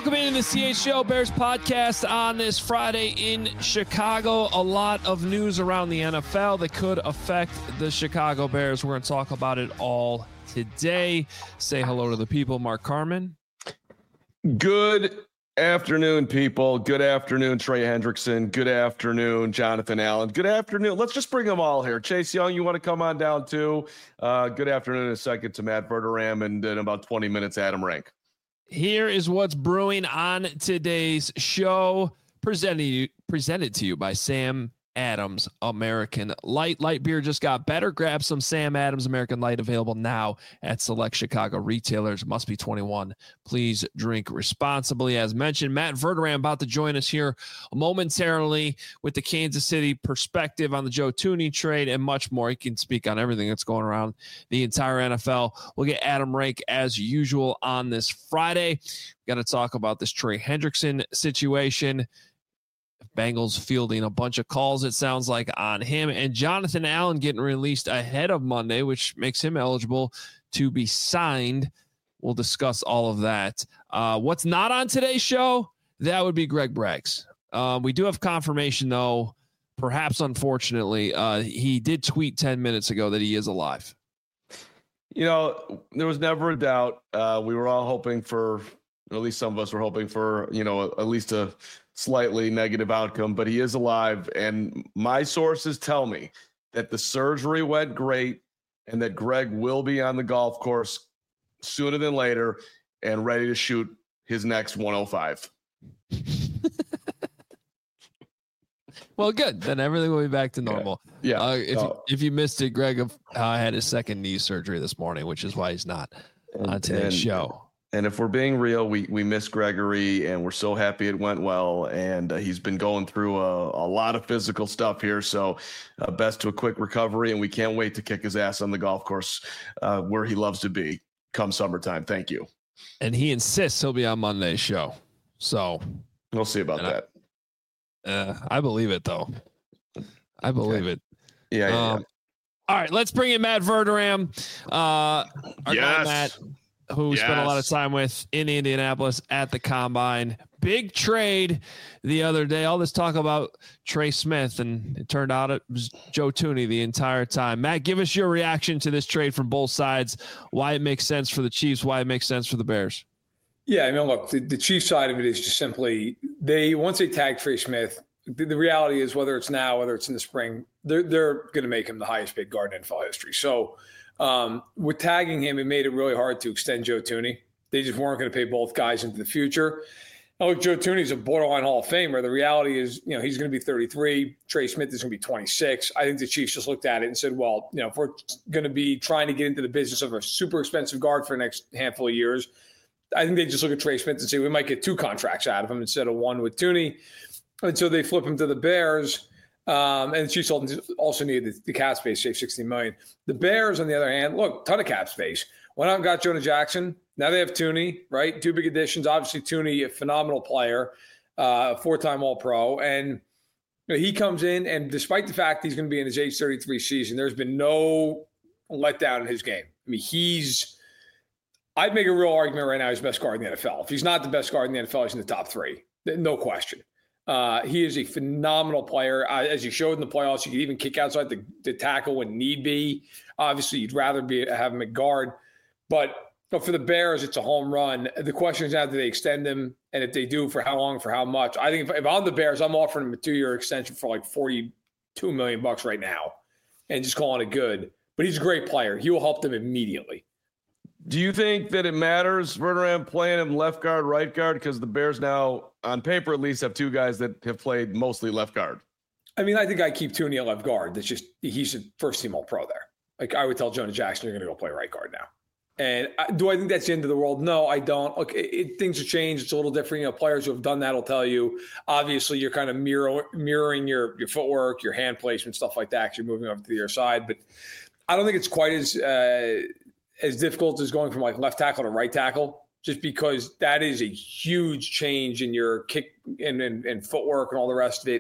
Welcome into the CHGO Bears podcast on this Friday in Chicago. A lot of news around the NFL that could affect the Chicago Bears. We're going to talk about it all today. Say hello to the people. Mark Carman. Good afternoon, people. Good afternoon, Trey Hendrickson. Good afternoon, Jonathan Allen. Good afternoon. Let's just bring them all here. Chase Young, you want to come on down too? Good afternoon in a second to Matt Verderame, and in about 20 minutes, Adam Rank. Here is what's brewing on today's show, presented to you by Sam Adams American Light. Light beer just got better. Grab some Sam Adams American Light, available now at select Chicago retailers. Must be 21. Please drink responsibly. As mentioned, Matt Verderame about to join us here momentarily with the Kansas City perspective on the Joe Thuney trade and much more. He can speak on everything that's going around the entire NFL. We'll get Adam Rank as usual on this Friday. Got to talk about this Trey Hendrickson situation. Bengals fielding a bunch of calls, it sounds like, on him, and Jonathan Allen getting released ahead of Monday, which makes him eligible to be signed. We'll discuss all of that. What's not on today's show? That would be Greg Braggs. We do have confirmation, though, perhaps unfortunately. He did tweet 10 minutes ago that he is alive. You know, there was never a doubt. We were all hoping for, or at least some of us were hoping for, at least a slightly negative outcome, but he is alive. And my sources tell me that the surgery went great and that Greg will be on the golf course sooner than later and ready to shoot his next 105. Well, good. Then everything will be back to normal. Yeah. If you missed it, Greg had his second knee surgery this morning, which is why he's not on today's show. And if we're being real, we miss Gregory, and we're so happy it went well. And he's been going through a lot of physical stuff here. So best to a quick recovery, and we can't wait to kick his ass on the golf course where he loves to be come summertime. Thank you. And he insists he'll be on Monday's show. So we'll see about that. I believe it, though. I believe it. Yeah. All right, let's bring in Matt Verderame. Our guy, Matt, who spent a lot of time with in Indianapolis at the Combine. Big trade the other day. All this talk about Trey Smith, and it turned out it was Joe Thuney the entire time. Matt, give us your reaction to this trade from both sides, why it makes sense for the Chiefs, why it makes sense for the Bears. Yeah, I mean, look, the Chiefs side of it is just simply once they tag Trey Smith, the reality is whether it's now, whether it's in the spring, they're going to make him the highest paid guard in NFL history. So, with tagging him, it made it really hard to extend Joe Thuney. They just weren't going to pay both guys into the future. Now, look, Joe Thuney's a borderline Hall of Famer. The reality is, he's going to be 33. Trey Smith is going to be 26. I think the Chiefs just looked at it and said, well, if we're going to be trying to get into the business of a super expensive guard for the next handful of years, I think they just look at Trey Smith and say we might get 2 contracts out of him instead of 1 with Thuney. And so they flip him to the Bears. And the Chiefs also needed the cap space, save $60 million. The Bears, on the other hand, look, ton of cap space. Went out and got Jonah Jackson. Now they have Thuney, right? 2 big additions. Obviously, Thuney, a phenomenal player, 4-time All-Pro. And he comes in, and despite the fact he's going to be in his age 33 season, there's been no letdown in his game. I mean, I'd make a real argument right now he's the best guard in the NFL. If he's not the best guard in the NFL, he's in the top 3. No question. He is a phenomenal player. As he showed in the playoffs, he could even kick outside the tackle when need be. Obviously, you'd rather have him at guard. But for the Bears, it's a home run. The question is now, do they extend him? And if they do, for how long, for how much? I think if I'm the Bears, I'm offering him a 2-year extension for like $42 million right now and just calling it good. But he's a great player. He will help them immediately. Do you think that it matters, Verderame, playing him left guard, right guard? Because the Bears now, on paper at least, have 2 guys that have played mostly left guard. I mean, I think I keep Thuney at left guard. That's just, he's a first-team All-Pro there. Like, I would tell Jonah Jackson, you're going to go play right guard now. And do I think that's the end of the world? No, I don't. Look, things have changed. It's a little different. Players who have done that will tell you. Obviously, you're kind of mirroring your footwork, your hand placement, stuff like that, because you're moving over to the other side. But I don't think it's quite as difficult as going from like left tackle to right tackle, just because that is a huge change in your kick and footwork and all the rest of it.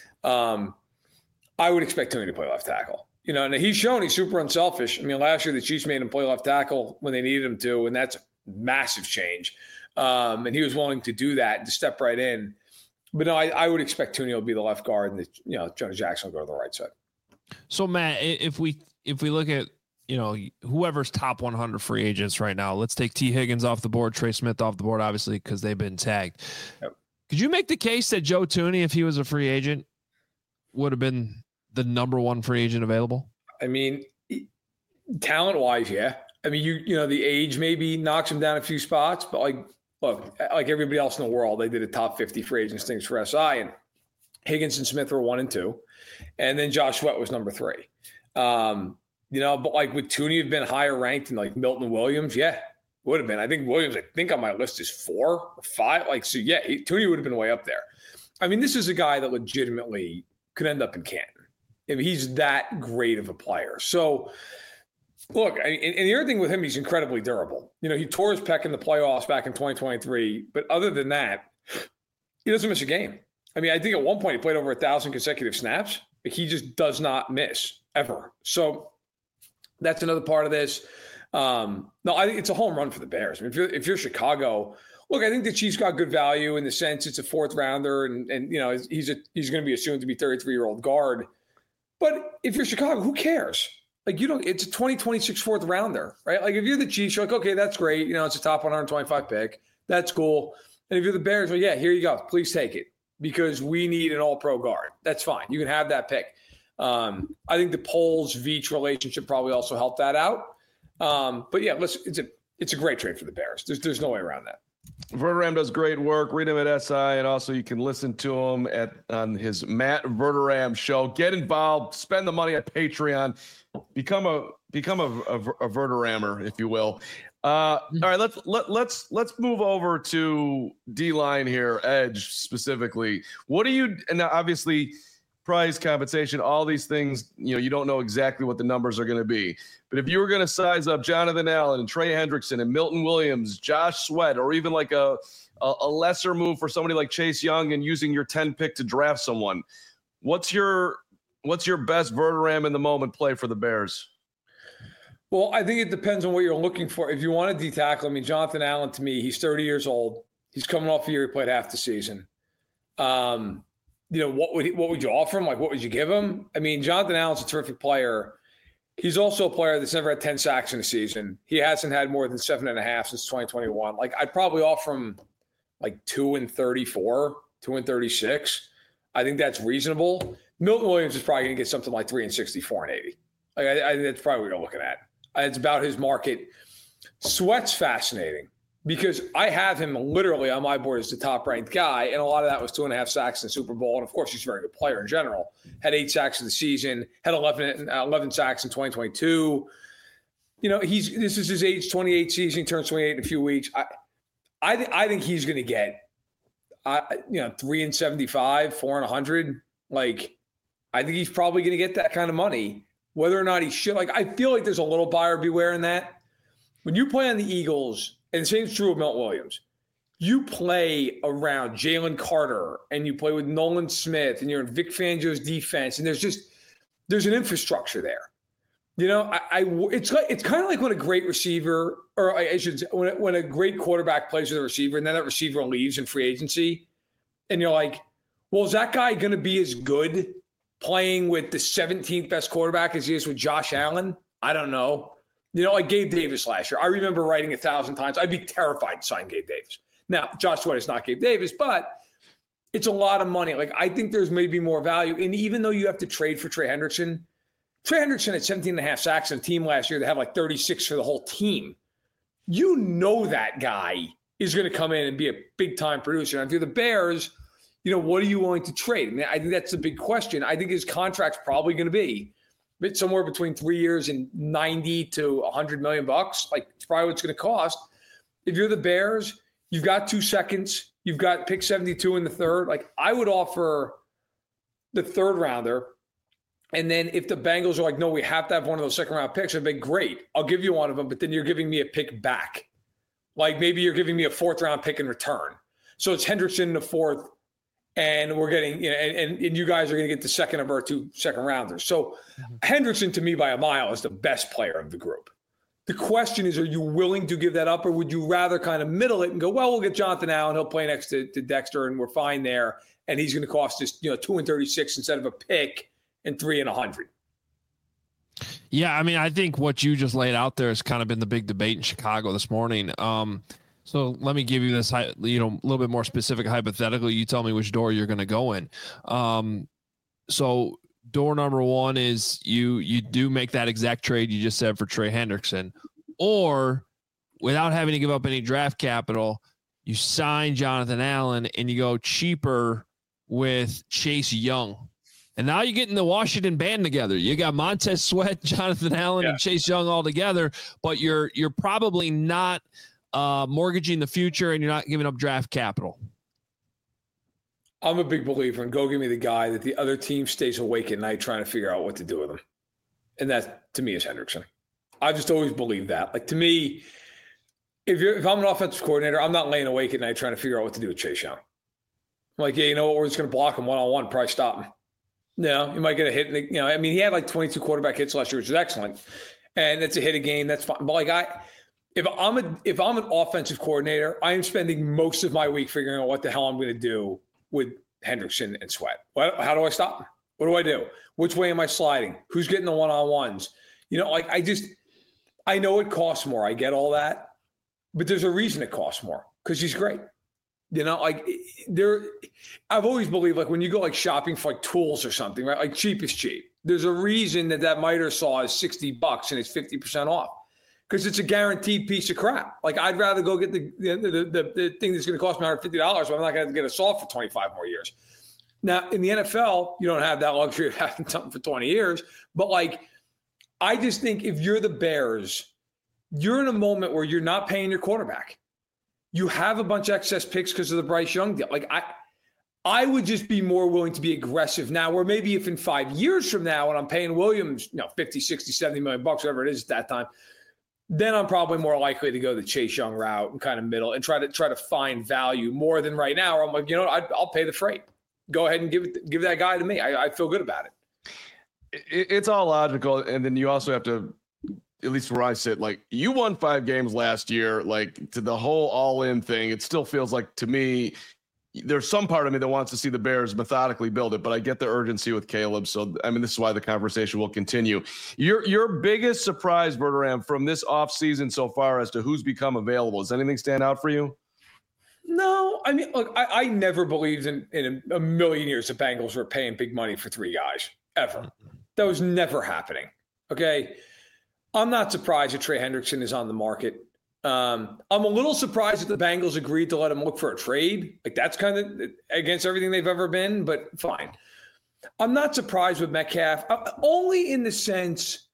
I would expect Thuney to play left tackle. And he's shown he's super unselfish. I mean, last year the Chiefs made him play left tackle when they needed him to, and that's a massive change. And he was willing to do that and to step right in. But no, I would expect Tooney will be the left guard, and Jonas Jackson will go to the right side. So Matt, if we look at whoever's top 100 free agents right now, let's take T. Higgins off the board, Trey Smith off the board, obviously because they've been tagged. Yep. Could you make the case that Joe Tooney, if he was a free agent, would have been the number one free agent available? I mean, talent-wise, yeah. I mean, the age maybe knocks him down a few spots, but look, like everybody else in the world, they did a top 50 free agents things for SI, and Higgins and Smith were 1 and 2, and then Josh Sweat was number 3. But like would Tooney have been higher ranked than like Milton Williams? Yeah, would have been. I think Williams, on my list is 4 or 5. Tooney would have been way up there. I mean, this is a guy that legitimately could end up in Canton. I mean, he's that great of a player. So, look, and the other thing with him, he's incredibly durable. He tore his pec in the playoffs back in 2023, but other than that, he doesn't miss a game. I mean, I think at one point he played over 1,000 consecutive snaps. But he just does not miss ever. So that's another part of this. No, I think it's a home run for the Bears. I mean, if you're Chicago, look, I think the Chiefs got good value in the sense it's a 4th rounder, and he's going to be assumed to be 33-year-old guard. But if you're Chicago, who cares? Like it's a 2026 4th rounder, right? Like if you're the Chiefs, you're like, okay, that's great. It's a top 125 pick. That's cool. And if you're the Bears, well, yeah, here you go. Please take it because we need an all-pro guard. That's fine. You can have that pick. I think the Poles-Veach relationship probably also helped that out. But yeah, it's a great trade for the Bears. There's no way around that. Verderame does great work. Read him at SI, and also you can listen to him on his Matt Verderame show. Get involved. Spend the money at Patreon. Become a Verderamer, if you will. All right, let's move over to D-line here, edge specifically. What do you? And obviously, price, compensation, all these things. You don't know exactly what the numbers are going to be. But if you were going to size up Jonathan Allen and Trey Hendrickson and Milton Williams, Josh Sweat, or even like a lesser move for somebody like Chase Young and using your 10 pick to draft someone, what's your best Verderame in the moment play for the Bears? Well, I think it depends on what you're looking for. If you want to D-tackle, I mean, Jonathan Allen, to me, he's 30 years old. He's coming off a year he played half the season. What would you offer him? Like, what would you give him? I mean, Jonathan Allen's a terrific player. He's also a player that's never had 10 sacks in a season. He hasn't had more than 7.5 since 2021. Like, I'd probably offer him like 2 and 34, 2 and 36. I think that's reasonable. Milton Williams is probably going to get something like 3 and 64 and 80. Like, I think that's probably what you're looking at. It's about his market. Sweat's fascinating because I have him literally on my board as the top-ranked guy, and a lot of that was 2.5 sacks in the Super Bowl. And, of course, he's a very good player in general. Had 8 sacks in the season, had 11 sacks in 2022. This is his age 28 season. He turns 28 in a few weeks. I think he's going to get, 3 and 75, 4 and 100. Like, I think he's probably going to get that kind of money. Whether or not he should, I feel like there's a little buyer beware in that. When you play on the Eagles, and the same is true of Milton Williams, you play around Jalen Carter and you play with Nolan Smith and you're in Vic Fangio's defense, and there's an infrastructure there. It's kind of like when a great receiver, or I should say, when a great quarterback plays with a receiver and then that receiver leaves in free agency, and you're like, well, is that guy going to be as good playing with the 17th best quarterback as he is with Josh Allen? I don't know. Like Gabe Davis last year. I remember writing 1,000 times, I'd be terrified to sign Gabe Davis. Now, Josh Sweat is not Gabe Davis, but it's a lot of money. Like, I think there's maybe more value. And even though you have to trade for Trey Hendrickson had 17.5 sacks on a team last year that had like 36 for the whole team. That guy is going to come in and be a big-time producer. And if you're the Bears, what are you willing to trade? I mean, I think that's the big question. I think his contract's probably going to be somewhere between 3 years and 90 to $100 million. Like, it's probably what it's going to cost. If you're the Bears, you've got 2 seconds. You've got pick 72 in the third. Like, I would offer the third rounder. And then if the Bengals are like, no, we have to have one of those second-round picks, I'd be great. I'll give you one of them, but then you're giving me a pick back. Like, maybe you're giving me a 4th-round pick in return. So it's Hendrickson in the 4th. And we're getting, and you guys are going to get the second of our 2 second rounders. So Hendrickson, to me, by a mile, is the best player of the group. The question is, are you willing to give that up, or would you rather kind of middle it and go, well, we'll get Jonathan Allen, he'll play next to Dexter, and we're fine there, and he's going to cost us 2-36 instead of a pick and 3-100. Yeah, I mean, I think what you just laid out there has kind of been the big debate in Chicago this morning. So let me give you this, a little bit more specific hypothetical. You tell me which door you're going to go in. So door number one is you do make that exact trade you just said for Trey Hendrickson, or without having to give up any draft capital, you sign Jonathan Allen and you go cheaper with Chase Young. And now you're getting the Washington band together. You got Montez Sweat, Jonathan Allen, and Chase Young all together, but you're probably not mortgaging the future, and you're not giving up draft capital. I'm a big believer in go give me the guy that the other team stays awake at night trying to figure out what to do with him. And that, to me, is Hendrickson. I just always believe that. Like, to me, if I'm an offensive coordinator, I'm not laying awake at night trying to figure out what to do with Chase Young. I'm like, yeah, you know what? We're just going to block him one-on-one, probably stop him. No, you might get a hit. I mean, he had like 22 quarterback hits last year, which is excellent. And it's a hit a game. That's fine. But like if I'm an offensive coordinator, I am spending most of my week figuring out what the hell I'm going to do with Hendrickson and Sweat. How do I stop him? What do I do? Which way am I sliding? Who's getting the one-on-ones? I know it costs more. I get all that, but there's a reason it costs more, because he's great. I've always believed, like, when you go like shopping for like tools or something, right? Like, cheap is cheap. There's a reason that miter saw is $60 and it's 50% off, because it's a guaranteed piece of crap. Like, I'd rather go get the thing that's going to cost me $150, but I'm not going to get a saw for 25 more years. Now, in the NFL, you don't have that luxury of having something for 20 years. But like, I just think if you're the Bears, you're in a moment where you're not paying your quarterback. You have a bunch of excess picks because of the Bryce Young deal. Like, I would just be more willing to be aggressive now, where maybe if in 5 years from now, when I'm paying Williams, 50, 60, 70 million bucks, whatever it is at that time, then I'm probably more likely to go the Chase Young route and kind of middle and try to find value more than right now, where I'm like, I'll pay the freight. Go ahead and give that guy to me. I feel good about it. It's all logical. And then you also have to, at least where I sit, like, you won 5 games last year, like, to the whole all-in thing. It still feels like, to me, there's some part of me that wants to see the Bears methodically build it, but I get the urgency with Caleb. So, I mean, this is why the conversation will continue. Your biggest surprise, Bertrand, from this offseason so far as to who's become available, does anything stand out for you? No, I mean, look, I never believed in a million years the Bengals were paying big money for 3 guys, ever. That was never happening, okay? I'm not surprised that Trey Hendrickson is on the market. I'm a little surprised that the Bengals agreed to let him look for a trade. Like, that's kind of against everything they've ever been, but fine. I'm not surprised with Metcalf, only in the sense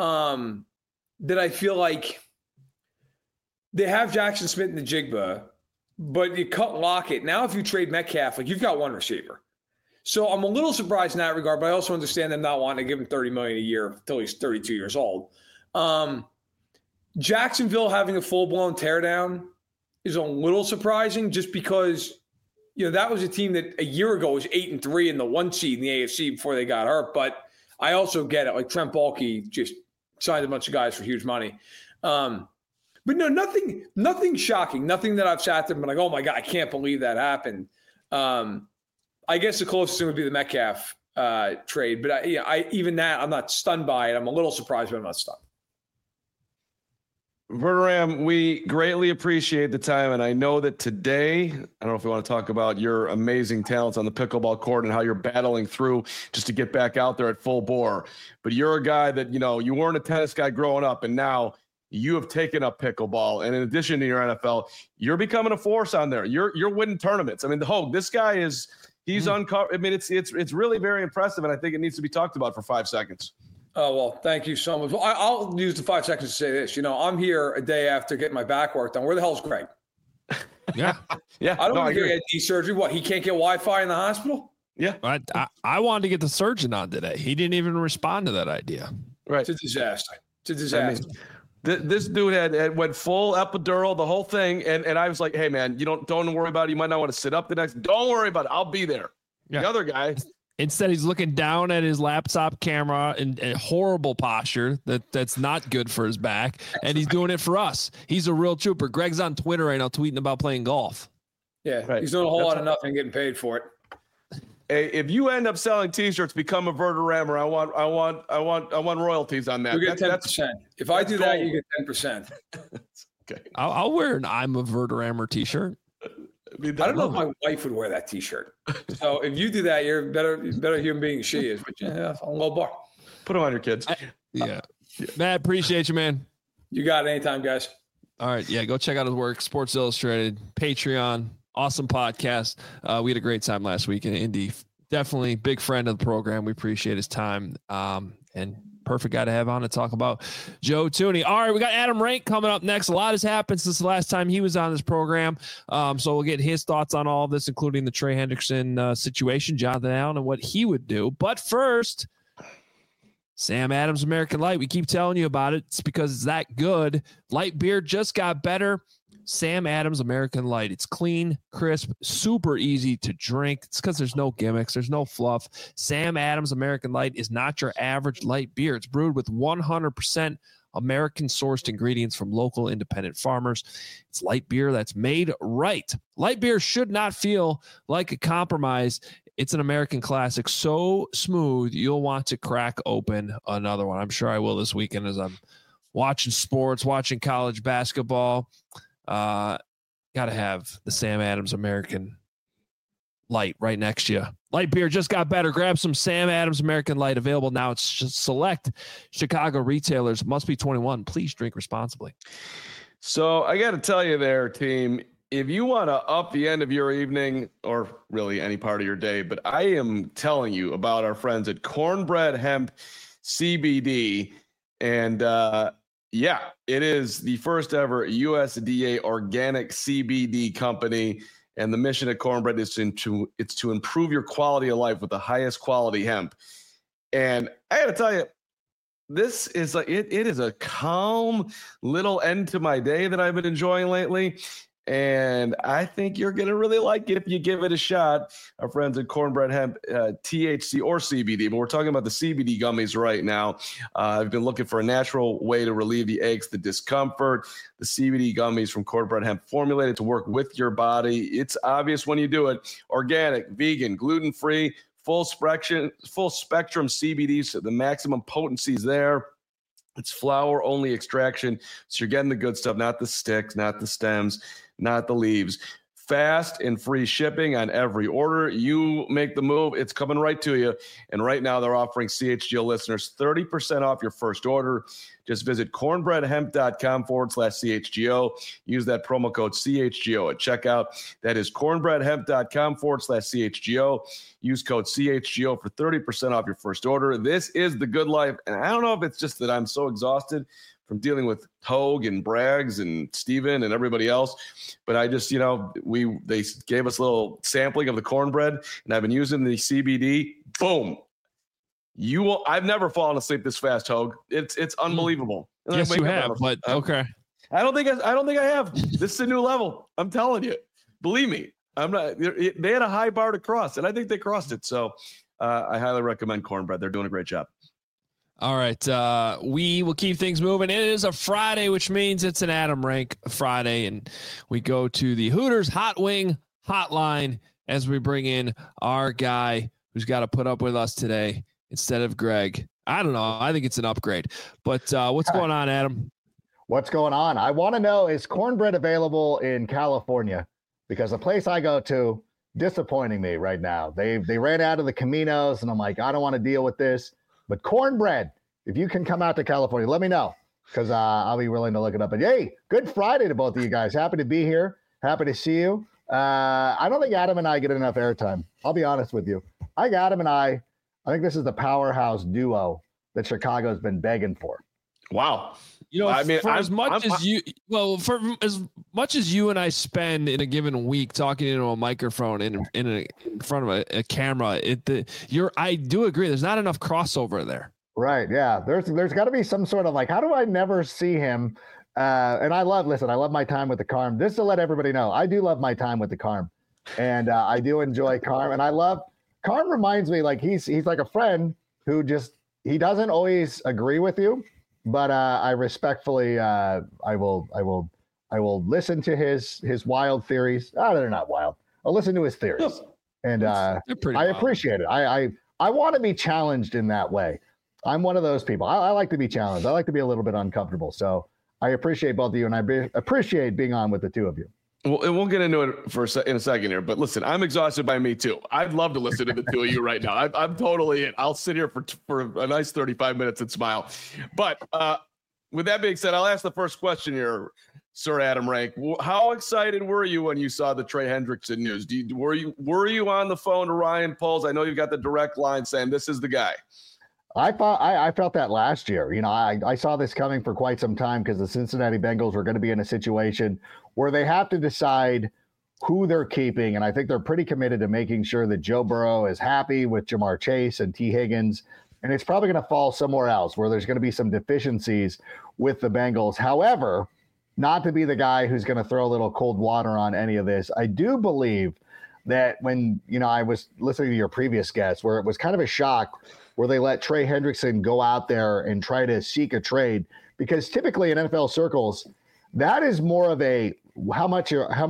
that I feel like they have Jackson Smith and the Jigba, but you cut Lockett. Now, if you trade Metcalf, like, you've got one receiver. So I'm a little surprised in that regard, but I also understand them not wanting to give him $30 million a year until he's 32 years old. Jacksonville having a full-blown teardown is a little surprising, just because, that was a team that a year ago was 8-3 in the 1 seed in the AFC before they got hurt. But I also get it. Like, Trent Baalke just signed a bunch of guys for huge money. But no, nothing shocking. Nothing that I've sat there and been like, oh my God, I can't believe that happened. I guess the closest thing would be the Metcalf trade. But even that, I'm not stunned by it. I'm a little surprised, but I'm not stunned. Bertrand, we greatly appreciate the time. And I know that today, I don't know if we want to talk about your amazing talents on the pickleball court and how you're battling through just to get back out there at full bore. But you're a guy that, you weren't a tennis guy growing up, and now you have taken up pickleball. And in addition to your NFL, you're becoming a force on there. You're winning tournaments. I mean, this guy he's uncovered. I mean, it's really very impressive. And I think it needs to be talked about for 5 seconds. Oh, well, thank you so much. Well, I'll use the 5 seconds to say this. I'm here a day after getting my back work done. Where the hell's Greg? Yeah. Yeah. I don't want to get knee surgery. What, he can't get Wi-Fi in the hospital? Yeah. I wanted to get the surgeon on today. He didn't even respond to that idea. Right. It's a disaster. I mean, this dude had went full epidural, the whole thing. And I was like, hey, man, don't worry about it. You might not want to sit up the next. Don't worry about it. I'll be there. Yeah. The other guy. Instead, he's looking down at his laptop camera in horrible posture that's not good for his back, and he's doing it for us. He's a real trooper. Greg's on Twitter right now tweeting about playing golf. Yeah, right. He's doing a whole lot of nothing, getting paid for it. Hey, if you end up selling T-shirts, become a Verderammer. I want royalties on that. You get 10%. If I do that, you get 10%. Okay. I'll wear an "I'm a Verderammer" T-shirt. I don't know if my wife would wear that T-shirt. So if you do that, you're better human being than she is. But yeah, on low bar. Put them on your kids. Yeah. Matt, appreciate you, man. You got it anytime, guys. All right. Yeah, go check out his work. Sports Illustrated, Patreon, awesome podcast. We had a great time last week in Indy. Definitely big friend of the program. We appreciate his time. And perfect guy to have on to talk about Joe Thuney. All right, we got Adam Rank coming up next. A lot has happened since the last time he was on this program. So we'll get his thoughts on all of this, including the Trey Hendrickson situation, Jonathan Allen, and what he would do. But first, Sam Adams American Light. We keep telling you about it. It's because it's that good. Light beer just got better. Sam Adams American Light. It's clean, crisp, super easy to drink. It's because there's no gimmicks. There's no fluff. Sam Adams American Light is not your average light beer. It's brewed with 100% American-sourced ingredients from local independent farmers. It's light beer that's made right. Light beer should not feel like a compromise. It's an American classic, so smooth you'll want to crack open another one. I'm sure I will this weekend as I'm watching sports, watching college basketball. Got to have the Sam Adams American Light right next to you. Light beer just got better. Grab some Sam Adams American Light, available now. It's just select Chicago retailers. Must be 21. Please drink responsibly. So I got to tell you there, team, if you want to up the end of your evening or really any part of your day, but I am telling you about our friends at Cornbread Hemp CBD. And yeah, it is the first ever USDA organic CBD company. And the mission of Cornbread is to improve your quality of life with the highest quality hemp. And I got to tell you, this is it is a calm little end to my day that I've been enjoying lately. And I think you're going to really like it if you give it a shot. Our friends at Cornbread Hemp, THC or CBD, but we're talking about the CBD gummies right now. I've been looking for a natural way to relieve the aches, the discomfort. The CBD gummies from Cornbread Hemp, formulated to work with your body. It's obvious when you do it. Organic, vegan, gluten-free, full spectrum CBD, so the maximum potency is there. It's flower-only extraction, so you're getting the good stuff, not the sticks, not the stems, not the leaves. Fast and free shipping on every order. You make the move, it's coming right to you. And right now they're offering CHGO listeners 30% off your first order. Just visit cornbreadhemp.com/CHGO. Use that promo code CHGO at checkout. That is cornbreadhemp.com/CHGO. Use code CHGO for 30% off your first order. This is the good life. And I don't know if it's just that I'm so exhausted from dealing with Hogue and Braggs and Steven and everybody else. But I just, they gave us a little sampling of the cornbread, and I've been using the CBD. Boom. I've never fallen asleep this fast, Hogue. It's unbelievable. And yes, you have, but okay. I don't think I have. This is a new level. I'm telling you. Believe me. I'm not. They had a high bar to cross, and I think they crossed it. So I highly recommend Cornbread. They're doing a great job. All right. We will keep things moving. It is a Friday, which means it's an Adam Rank Friday, and we go to the Hooters Hot Wing Hotline as we bring in our guy who's got to put up with us today instead of Greg. I don't know. I think it's an upgrade. But what's going on, Adam? What's going on? I want to know, is cornbread available in California? Because the place I go to, disappointing me right now. They ran out of the Caminos, and I'm like, I don't want to deal with this. But cornbread, if you can come out to California, let me know, because I'll be willing to look it up. And hey, good Friday to both of you guys. Happy to be here. Happy to see you. I don't think Adam and I get enough airtime. I'll be honest with you. Adam and I think this is the powerhouse duo that Chicago's been begging for. Wow. For as much as you and I spend in a given week talking into a microphone in front of a camera, I do agree. There's not enough crossover there. Right. Yeah. There's got to be some sort of how do I never see him? And I love my time with the Carm. Just to let everybody know, I do love my time with the Carm, and I do enjoy Carm, and I love Karn reminds me like he's like a friend who he doesn't always agree with you, but I respectfully I will listen to his wild theories. Oh, they're not wild. I'll listen to his theories, and I appreciate it. I want to be challenged in that way. I'm one of those people. I like to be challenged. I like to be a little bit uncomfortable. So I appreciate both of you, and I appreciate being on with the two of you. Well, and we'll get into it in a second here. But listen, I'm exhausted by me too. I'd love to listen to the two of you right now. I'm totally in. I'll sit here for a nice 35 minutes and smile. But with that being said, I'll ask the first question here, Sir Adam Rank. How excited were you when you saw the Trey Hendrickson news? Were you on the phone to Ryan Poles? I know you've got the direct line saying this is the guy. I felt that last year. You know, I saw this coming for quite some time because the Cincinnati Bengals were going to be in a situation where they have to decide who they're keeping. And I think they're pretty committed to making sure that Joe Burrow is happy with Jamar Chase and T. Higgins. And it's probably going to fall somewhere else where there's going to be some deficiencies with the Bengals. However, not to be the guy who's going to throw a little cold water on any of this, I do believe that when, you know, I was listening to your previous guest where it was kind of a shock where they let Trey Hendrickson go out there and try to seek a trade, because typically in NFL circles, that is more of a how much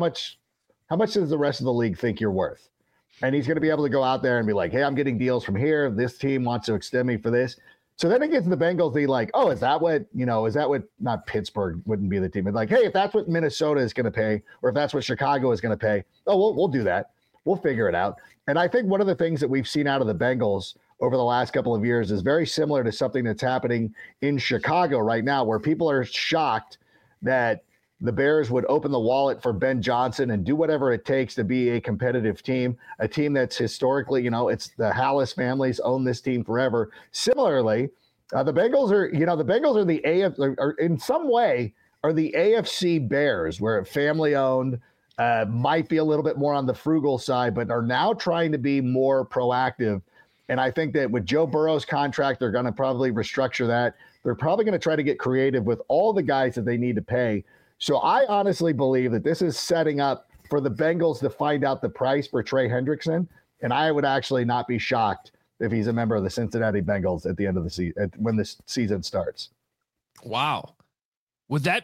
does the rest of the league think you're worth? And he's going to be able to go out there and be like, hey, I'm getting deals from here. This team wants to extend me for this. So then it gets to the Bengals. They like, oh, is that what not Pittsburgh wouldn't be the team. It's like, hey, if that's what Minnesota is going to pay, or if that's what Chicago is going to pay, oh, we'll do that. We'll figure it out. And I think one of the things that we've seen out of the Bengals over the last couple of years is very similar to something that's happening in Chicago right now, where people are shocked that the Bears would open the wallet for Ben Johnson and do whatever it takes to be a competitive team, a team that's historically, you know, it's the Hallis families own this team forever. Similarly, the Bengals are the AFC, or in some way are the AFC Bears, where family owned, might be a little bit more on the frugal side, but are now trying to be more proactive. And I think that with Joe Burrow's contract, they're going to probably restructure that. They're probably going to try to get creative with all the guys that they need to pay. So I honestly believe that this is setting up for the Bengals to find out the price for Trey Hendrickson. And I would actually not be shocked if he's a member of the Cincinnati Bengals at the end of the season, when this season starts. Wow. Would that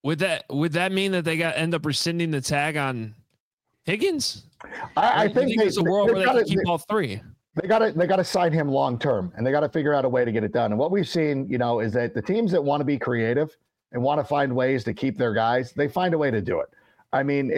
mean that they end up rescinding the tag on Higgins? I think there's a world where they can keep all three. They got to sign him long term, and they got to figure out a way to get it done. And what we've seen, you know, is that the teams that want to be creative and want to find ways to keep their guys, they find a way to do it. I mean,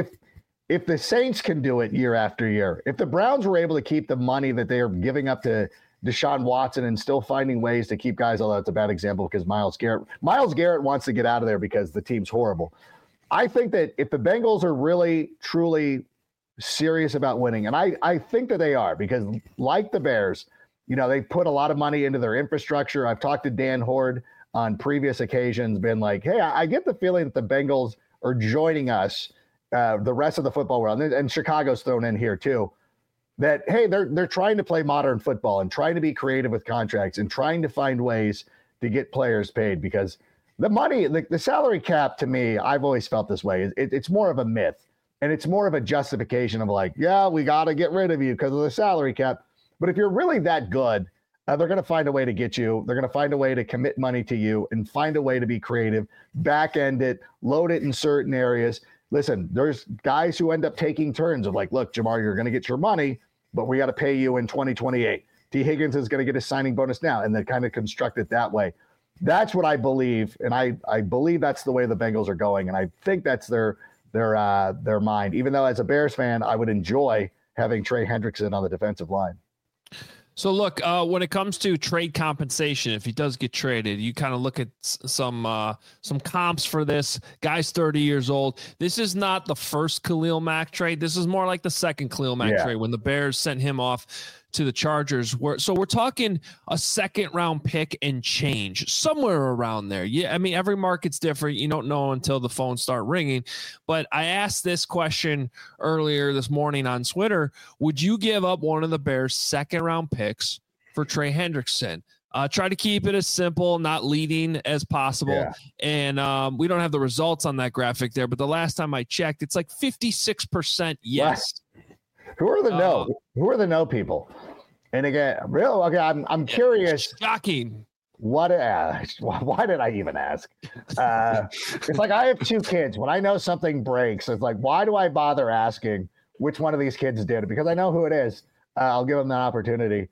if the Saints can do it year after year, if the Browns were able to keep the money that they are giving up to Deshaun Watson and still finding ways to keep guys, although it's a bad example because Myles Garrett wants to get out of there because the team's horrible. I think that if the Bengals are really, truly serious about winning, and I think that they are, because like the Bears, you know, they put a lot of money into their infrastructure. I've talked to Dan Horde on previous occasions, been like, hey, I get the feeling that the Bengals are joining us, the rest of the football world, and Chicago's thrown in here too, that, hey, they're trying to play modern football and trying to be creative with contracts and trying to find ways to get players paid, because the money, the salary cap, to me, I've always felt this way. It's more of a myth, and it's more of a justification of like, yeah, we got to get rid of you because of the salary cap. But if you're really that good, they're going to find a way to get you. They're going to find a way to commit money to you and find a way to be creative, back end it, load it in certain areas. Listen, there's guys who end up taking turns of like, look, Jamar, you're going to get your money, but we got to pay you in 2028. T. Higgins is going to get his signing bonus now, and they kind of construct it that way. That's what I believe, and I believe that's the way the Bengals are going, and I think that's their mind. Even though as a Bears fan, I would enjoy having Trey Hendrickson on the defensive line. So look, when it comes to trade compensation, if he does get traded, you kind of look at some comps for this. Guy's 30 years old. This is not the first Khalil Mack trade. This is more like the second Khalil Mack trade when the Bears sent him off to the Chargers. So we're talking a second round pick and change, somewhere around there. Yeah, I mean, every market's different. You don't know until the phones start ringing. But I asked this question earlier this morning on Twitter. Would you give up one of the Bears' second round picks for Trey Hendrickson? Try to keep it as simple, not leading as possible. Yeah. And we don't have the results on that graphic there, but the last time I checked, it's like 56% yes. Who are the no people? And again, okay, I'm curious. Shocking. Why did I even ask? It's like I have 2 kids. When I know something breaks, it's like, why do I bother asking which one of these kids did it? Because I know who it is. I'll give them that opportunity.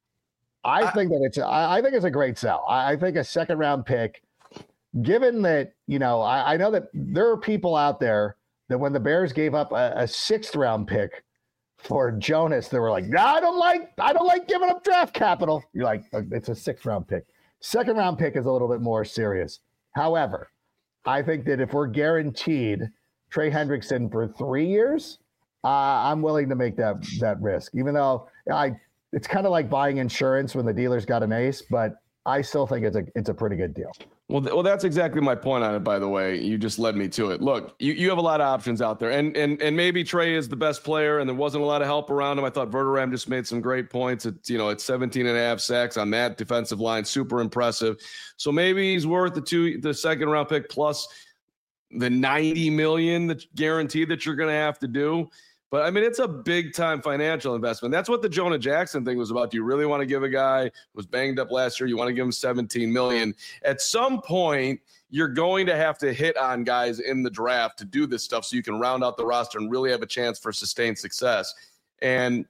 I think it's a great sell. I think a 2nd round pick, given that, I know that there are people out there that when the Bears gave up a 6th round pick for Jonas, they were like, no, I don't like giving up draft capital. You're like, it's a 6th round pick. 2nd round pick is a little bit more serious. However, I think that if we're guaranteed Trey Hendrickson for 3 years, I'm willing to make that risk, even though it's kind of like buying insurance when the dealer's got an ace, but I still think it's a pretty good deal. Well, that's exactly my point on it, by the way. You just led me to it. Look, you have a lot of options out there, and maybe Trey is the best player, and there wasn't a lot of help around him. I thought Verderame just made some great points. It's 17.5 sacks on that defensive line, super impressive. So maybe he's worth the 2nd round pick plus the $90 million that's guaranteed that you're going to have to do. But I mean, it's a big time financial investment. That's what the Jonah Jackson thing was about. Do you really want to give a guy who was banged up last year? You want to give him $17 million? At some point, you're going to have to hit on guys in the draft to do this stuff so you can round out the roster and really have a chance for sustained success. And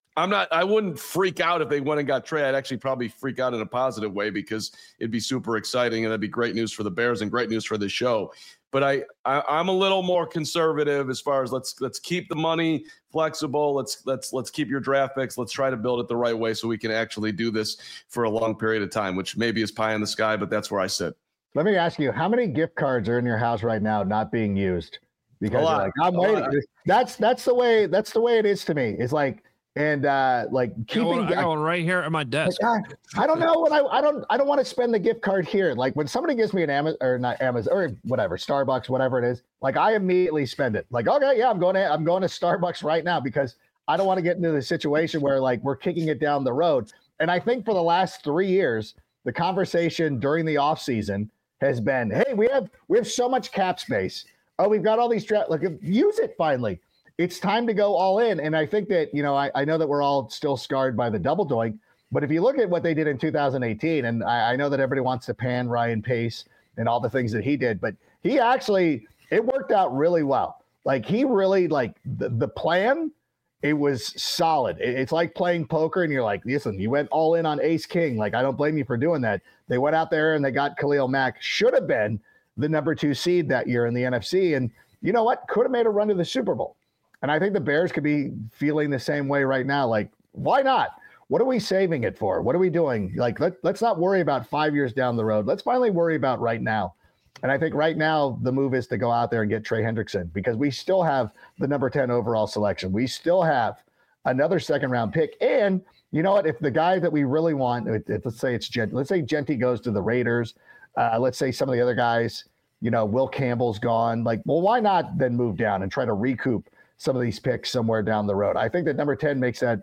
I wouldn't freak out if they went and got Trey. I'd actually probably freak out in a positive way because it'd be super exciting and that'd be great news for the Bears and great news for the show. But I'm a little more conservative as far as let's keep the money flexible. Let's keep your draft picks. Let's try to build it the right way so we can actually do this for a long period of time, which maybe is pie in the sky, but that's where I sit. Let me ask you, how many gift cards are in your house right now not being used? Because you're like, I'm waiting. That's the way it is to me. It's like, and like keeping I got one right here at my desk. Like, I don't know what I don't want to spend the gift card here. Like when somebody gives me an Amazon or not Amazon or whatever, Starbucks, whatever it is, like I immediately spend it. Like, okay, yeah, I'm going to Starbucks right now because I don't want to get into the situation where like we're kicking it down the road. And I think for the last 3 years, the conversation during the off season has been, hey, we have so much cap space. Oh, we've got all these use it finally. It's time to go all in. And I think that, I know that we're all still scarred by the double doink, but if you look at what they did in 2018, and I know that everybody wants to pan Ryan Pace and all the things that he did, but he actually, it worked out really well. Like he really the plan, it was solid. It's like playing poker and you're like, listen, you went all in on ace king. Like, I don't blame you for doing that. They went out there and they got Khalil Mack, should have been the number 2 seed that year in the NFC. And you know what? Could have made a run to the Super Bowl. And I think the Bears could be feeling the same way right now. Like, why not? What are we saving it for? What are we doing? Like, let's not worry about 5 years down the road. Let's finally worry about right now. And I think right now the move is to go out there and get Trey Hendrickson because we still have the number 10 overall selection. We still have another 2nd round pick. And you know what? If the guy that we really want, let's say Genty goes to the Raiders. Let's say some of the other guys, Will Campbell's gone. Like, well, why not then move down and try to recoup some of these picks somewhere down the road? I think that number 10 makes that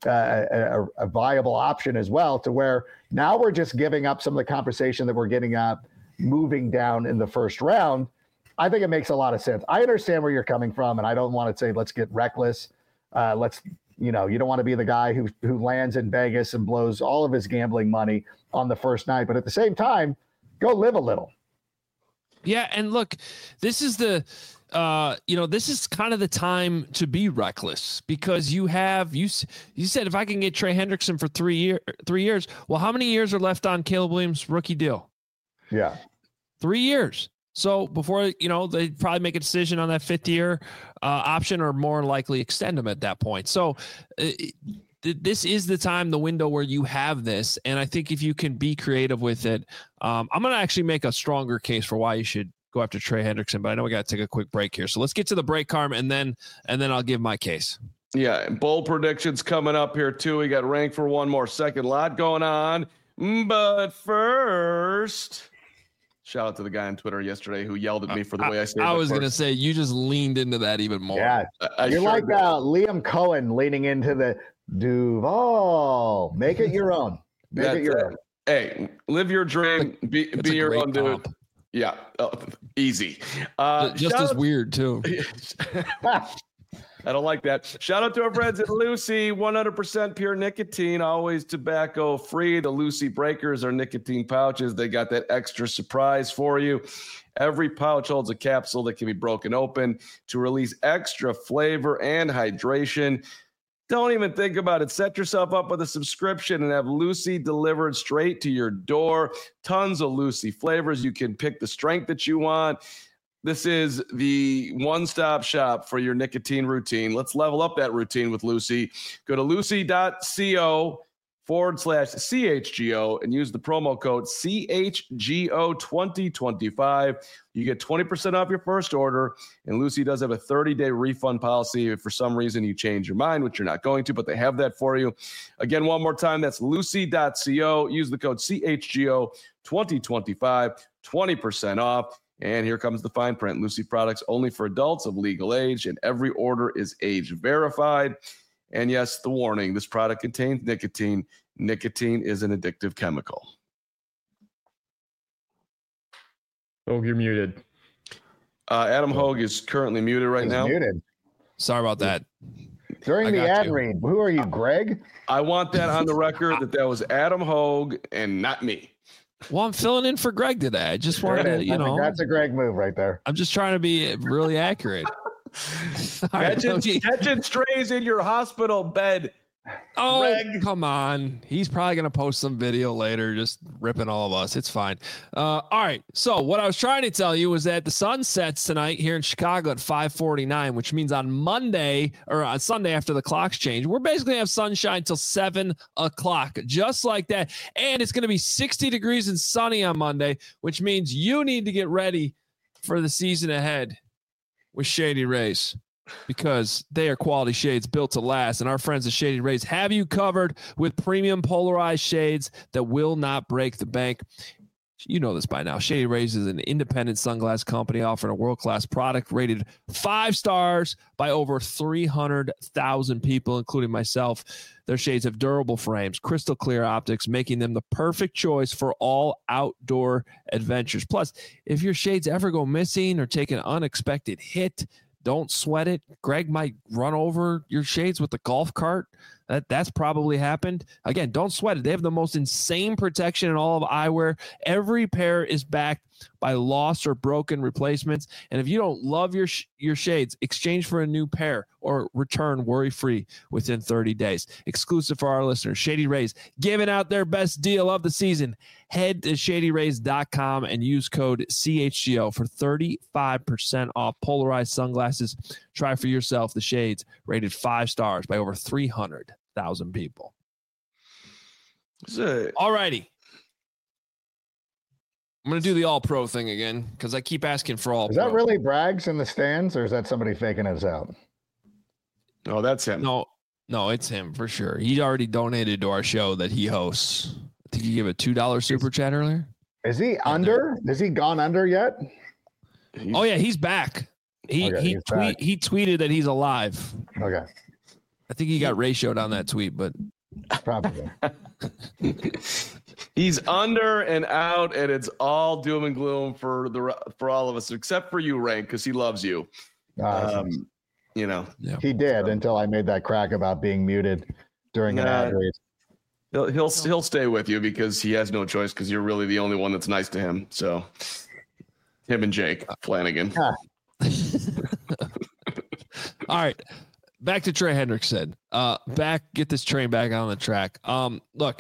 a viable option as well, to where now we're just giving up some of the conversation that we're getting up, moving down in the 1st round. I think it makes a lot of sense. I understand where you're coming from, and I don't want to say let's get reckless. You don't want to be the guy who lands in Vegas and blows all of his gambling money on the first night, but at the same time, go live a little. Yeah, and look, this is this is kind of the time to be reckless because you said if I can get Trey Hendrickson for 3 years, well, how many years are left on Caleb Williams' rookie deal? Yeah, 3 years. So before they probably make a decision on that 5th year option, or more likely extend them at that point. So this is the time, the window where you have this, and I think if you can be creative with it, I'm going to actually make a stronger case for why you should go after Trey Hendrickson, but I know we got to take a quick break here. So let's get to the break, Carm, and then I'll give my case. Yeah, bold predictions coming up here too. We got ranked for one more second. Lot going on. But first, shout out to the guy on Twitter yesterday who yelled at me for the way I said it. I was going to say, you just leaned into that even more. Yeah, you're sure like Liam Cohen leaning into the Duval. Make it your own. Make it your own. Hey, live your dream. Be your own dude. Yeah, easy. Just as weird too. I don't like that. Shout out to our friends at Lucy, 100% pure nicotine, always tobacco free. The Lucy Breakers are nicotine pouches. They got that extra surprise for you. Every pouch holds a capsule that can be broken open to release extra flavor and hydration. Don't even think about it. Set yourself up with a subscription and have Lucy delivered straight to your door. Tons of Lucy flavors. You can pick the strength that you want. This is the one-stop shop for your nicotine routine. Let's level up that routine with Lucy. Go to lucy.co/CHGO and use the promo code CHGO2025. You get 20% off your first order, and Lucy does have a 30-day refund policy if for some reason you change your mind, which you're not going to, but they have that for you. Again, one more time, that's lucy.co. Use the code CHGO2025, 20% off. And here comes the fine print. Lucy products only for adults of legal age, and every order is age verified. And yes, the warning, this product contains nicotine. Nicotine is an addictive chemical. Hogue, you're muted. Adam Hogue is currently muted right now. Muted. Sorry about that. During the ad read, who are you, Greg? I want that on the record that was Adam Hogue and not me. Well, I'm filling in for Greg today. I just wanted to, that's a Greg move right there. I'm just trying to be really accurate. Catching strays in your hospital bed. Oh, Greg. Come on. He's probably going to post some video later just ripping all of us. It's fine. All right. So what I was trying to tell you was that the sun sets tonight here in Chicago at 5:49, which means on Monday or on Sunday after the clocks change, we're basically going to have sunshine till 7 o'clock, just like that. And it's going to be 60 degrees and sunny on Monday, which means you need to get ready for the season ahead with Shady Rays, because they are quality shades built to last. And our friends at Shady Rays have you covered with premium polarized shades that will not break the bank. You know this by now. Shady Rays is an independent sunglass company offering a world-class product rated 5 stars by over 300,000 people, including myself. Their shades have durable frames, crystal clear optics, making them the perfect choice for all outdoor adventures. Plus, if your shades ever go missing or take an unexpected hit, don't sweat it. Greg might run over your shades with the golf cart. That's probably happened. Again, don't sweat it. They have the most insane protection in all of eyewear. Every pair is backed by lost or broken replacements. And if you don't love your shades, exchange for a new pair or return worry-free within 30 days. Exclusive for our listeners, Shady Rays giving out their best deal of the season. Head to shadyrays.com and use code CHGO for 35% off polarized sunglasses. Try for yourself the shades rated 5 stars by over 300,000 people. All righty. I'm going to do the all-pro thing again because I keep asking for all-pro. Is that really Braggs in the stands, or is that somebody faking us out? No, that's him. No, it's him for sure. He already donated to our show that he hosts. I think he gave a $2 super chat earlier. Is he under? Has he gone under yet? Oh, yeah, he's back. He tweeted that he's alive. Okay. I think he got ratioed on that tweet, but probably. He's under and out, and it's all doom and gloom for all of us, except for you, Rank, because he loves you. He did until I made that crack about being muted during an ad read. He'll stay with you because he has no choice, because you're really the only one that's nice to him. So him and Jake Flanagan. All right. Back to Trey Hendrickson. Get this train back on the track. Look,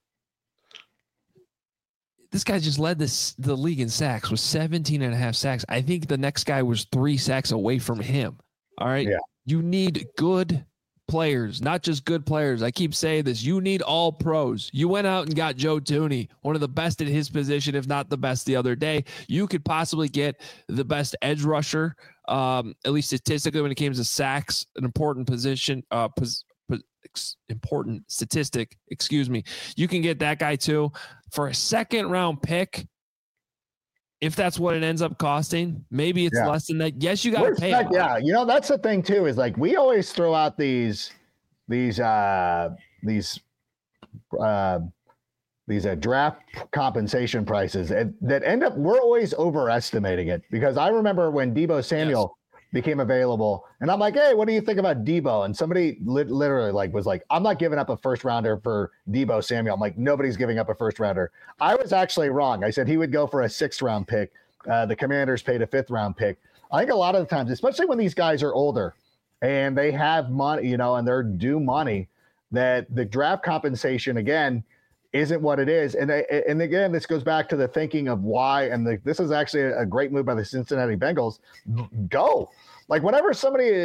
this guy just led the league in sacks with 17.5 sacks. I think the next guy was 3 sacks away from him. All right. Yeah. You need good players, not just good players. I keep saying this. You need all pros. You went out and got Joe Thuney, one of the best at his position, if not the best the other day. You could possibly get the best edge rusher, at least statistically when it comes to sacks, an important position, important statistic, you can get that guy too for a 2nd round pick. If that's what it ends up costing, maybe it's less than that. Yes, you got to pay. Yeah, that's the thing too. Is like we always throw out these draft compensation prices that end up we're always overestimating it, because I remember when Deebo Samuel became available. And I'm like, hey, what do you think about Debo? And somebody literally was like, I'm not giving up a first rounder for Debo Samuel. I'm like, nobody's giving up a first rounder. I was actually wrong. I said he would go for a 6th round pick. The Commanders paid a 5th round pick. I think a lot of the times, especially when these guys are older and they have money, and they're due money, that the draft compensation, again, isn't what it is. And again, this goes back to the thinking of why, and this is actually a great move by the Cincinnati Bengals. Go. Like, whenever somebody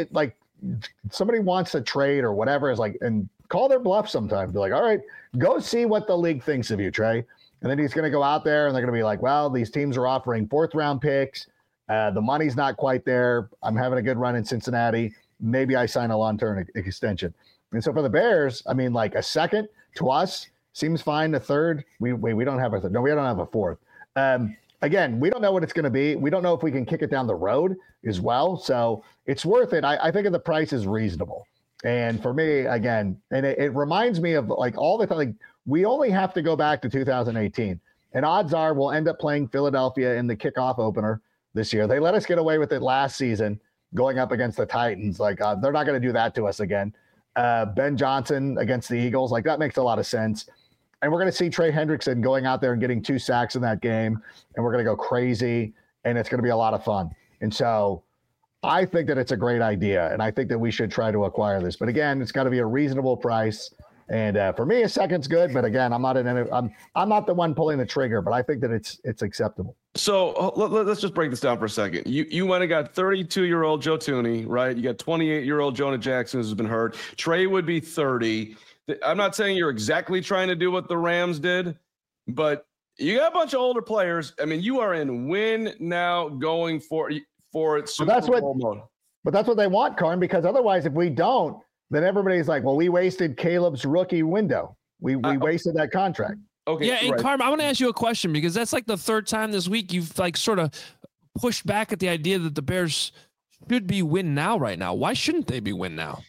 wants to trade or whatever, is like, and call their bluff sometimes. Be like, all right, go see what the league thinks of you, Trey. And then he's going to go out there and they're going to be like, well, these teams are offering 4th round picks. The money's not quite there. I'm having a good run in Cincinnati. Maybe I sign a long-term extension. And so for the Bears, I mean, like, a 2nd to us seems fine. A 3rd, we don't have a 3rd. No, we don't have a 4th. Again, we don't know what it's going to be. We don't know if we can kick it down the road as well. So it's worth it. I think the price is reasonable. And for me, again, and it reminds me of like all the time, like, we only have to go back to 2018. And odds are we'll end up playing Philadelphia in the kickoff opener this year. They let us get away with it last season going up against the Titans. Like, they're not going to do that to us again. Ben Johnson against the Eagles, like, that makes a lot of sense. And we're going to see Trey Hendrickson going out there and getting 2 sacks in that game. And we're going to go crazy. And it's going to be a lot of fun. And so I think that it's a great idea. And I think that we should try to acquire this. But again, it's got to be a reasonable price. And for me, a 2nd's good. But again, I'm not the one pulling the trigger. But I think that it's acceptable. So let's just break this down for a second. You went and got 32-year-old Joe Thuney, right? You got 28-year-old Jonah Jackson who's been hurt. Trey would be 30. I'm not saying you're exactly trying to do what the Rams did, but you got a bunch of older players. I mean, you are in win now going for it. Super Bowl mode. But that's what they want, Karn, because otherwise, if we don't, then everybody's like, well, we wasted Caleb's rookie window. We wasted that contract. Okay. Yeah, and right. Carm, I want to ask you a question, because that's like the 3rd time this week you've like sort of pushed back at the idea that the Bears should be win now right now. Why shouldn't they be win now?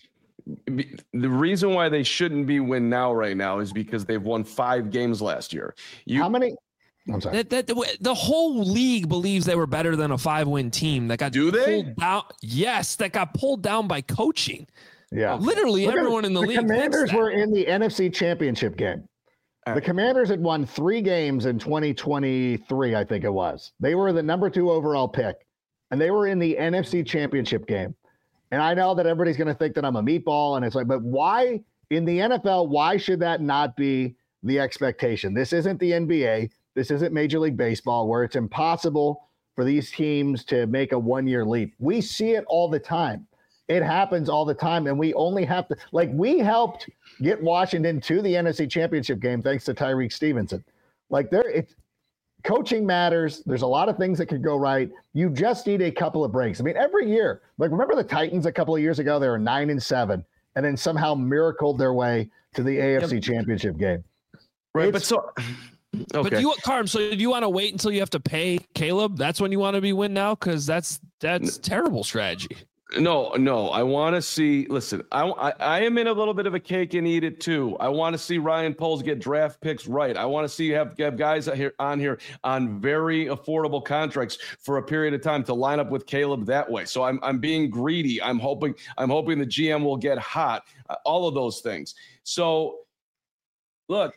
The reason why they shouldn't be win now right now is because they've won 5 games last year. How many? I'm sorry. The whole league believes they were better than a 5-win team that got pulled down. Yes, that got pulled down by coaching. Yeah, literally everyone in the league. The Commanders were in the NFC Championship game. The Commanders had won 3 games in 2023, I think it was. They were the number 2 overall pick, and they were in the NFC Championship game. And I know that everybody's going to think that I'm a meatball, and it's like, but why in the NFL, why should that not be the expectation? This isn't the NBA. This isn't Major League Baseball, where it's impossible for these teams to make a 1-year leap. We see it all the time. It happens all the time, and we only have to, like, we helped get Washington to the NFC Championship game thanks to Tyreek Stevenson. Like, coaching matters. There's a lot of things that could go right. You just need a couple of breaks. I mean, every year, like, remember the Titans a couple of years ago? They were 9-7, and then somehow miracled their way to the AFC Championship game. Right, but so. Okay. But Carm, so do you want to wait until you have to pay Caleb? That's when you want to be win now? Because that's terrible strategy. No. I want to see. Listen, I am in a little bit of a cake and eat it too. I want to see Ryan Poles get draft picks right. I want to see have guys on here on very affordable contracts for a period of time to line up with Caleb that way. So I'm being greedy. I'm hoping the GM will get hot. All of those things. So, look,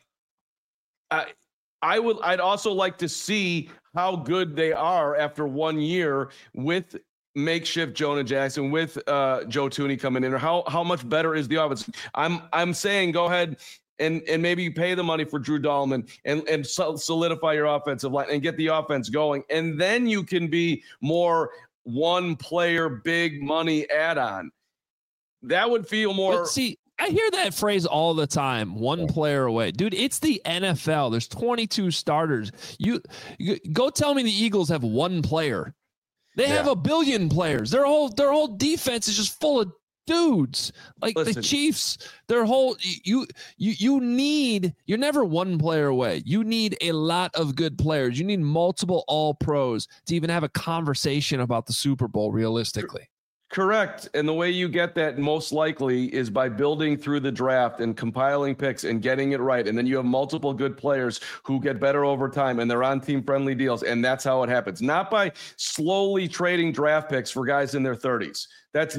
I'd also like to see how good they are after 1 year with makeshift Jonah Jackson, with Joe Thuney coming in, or how much better is the offense? I'm saying go ahead and maybe you pay the money for Drew Dahlman and solidify your offensive line and get the offense going, and then you can be more one player big money add-on. That would feel more. But see, I hear that phrase all the time. One player away, dude. It's the NFL. There's 22 starters. You go tell me the Eagles have one player. They have a billion players. Their whole defense is just full of dudes. Like the Chiefs, their whole you're never one player away. You need a lot of good players. You need multiple all pros to even have a conversation about the Super Bowl realistically. Correct. And the way you get that most likely is by building through the draft and compiling picks and getting it right. And then you have multiple good players who get better over time and they're on team friendly deals. And that's how it happens. Not by slowly trading draft picks for guys in their 30s. That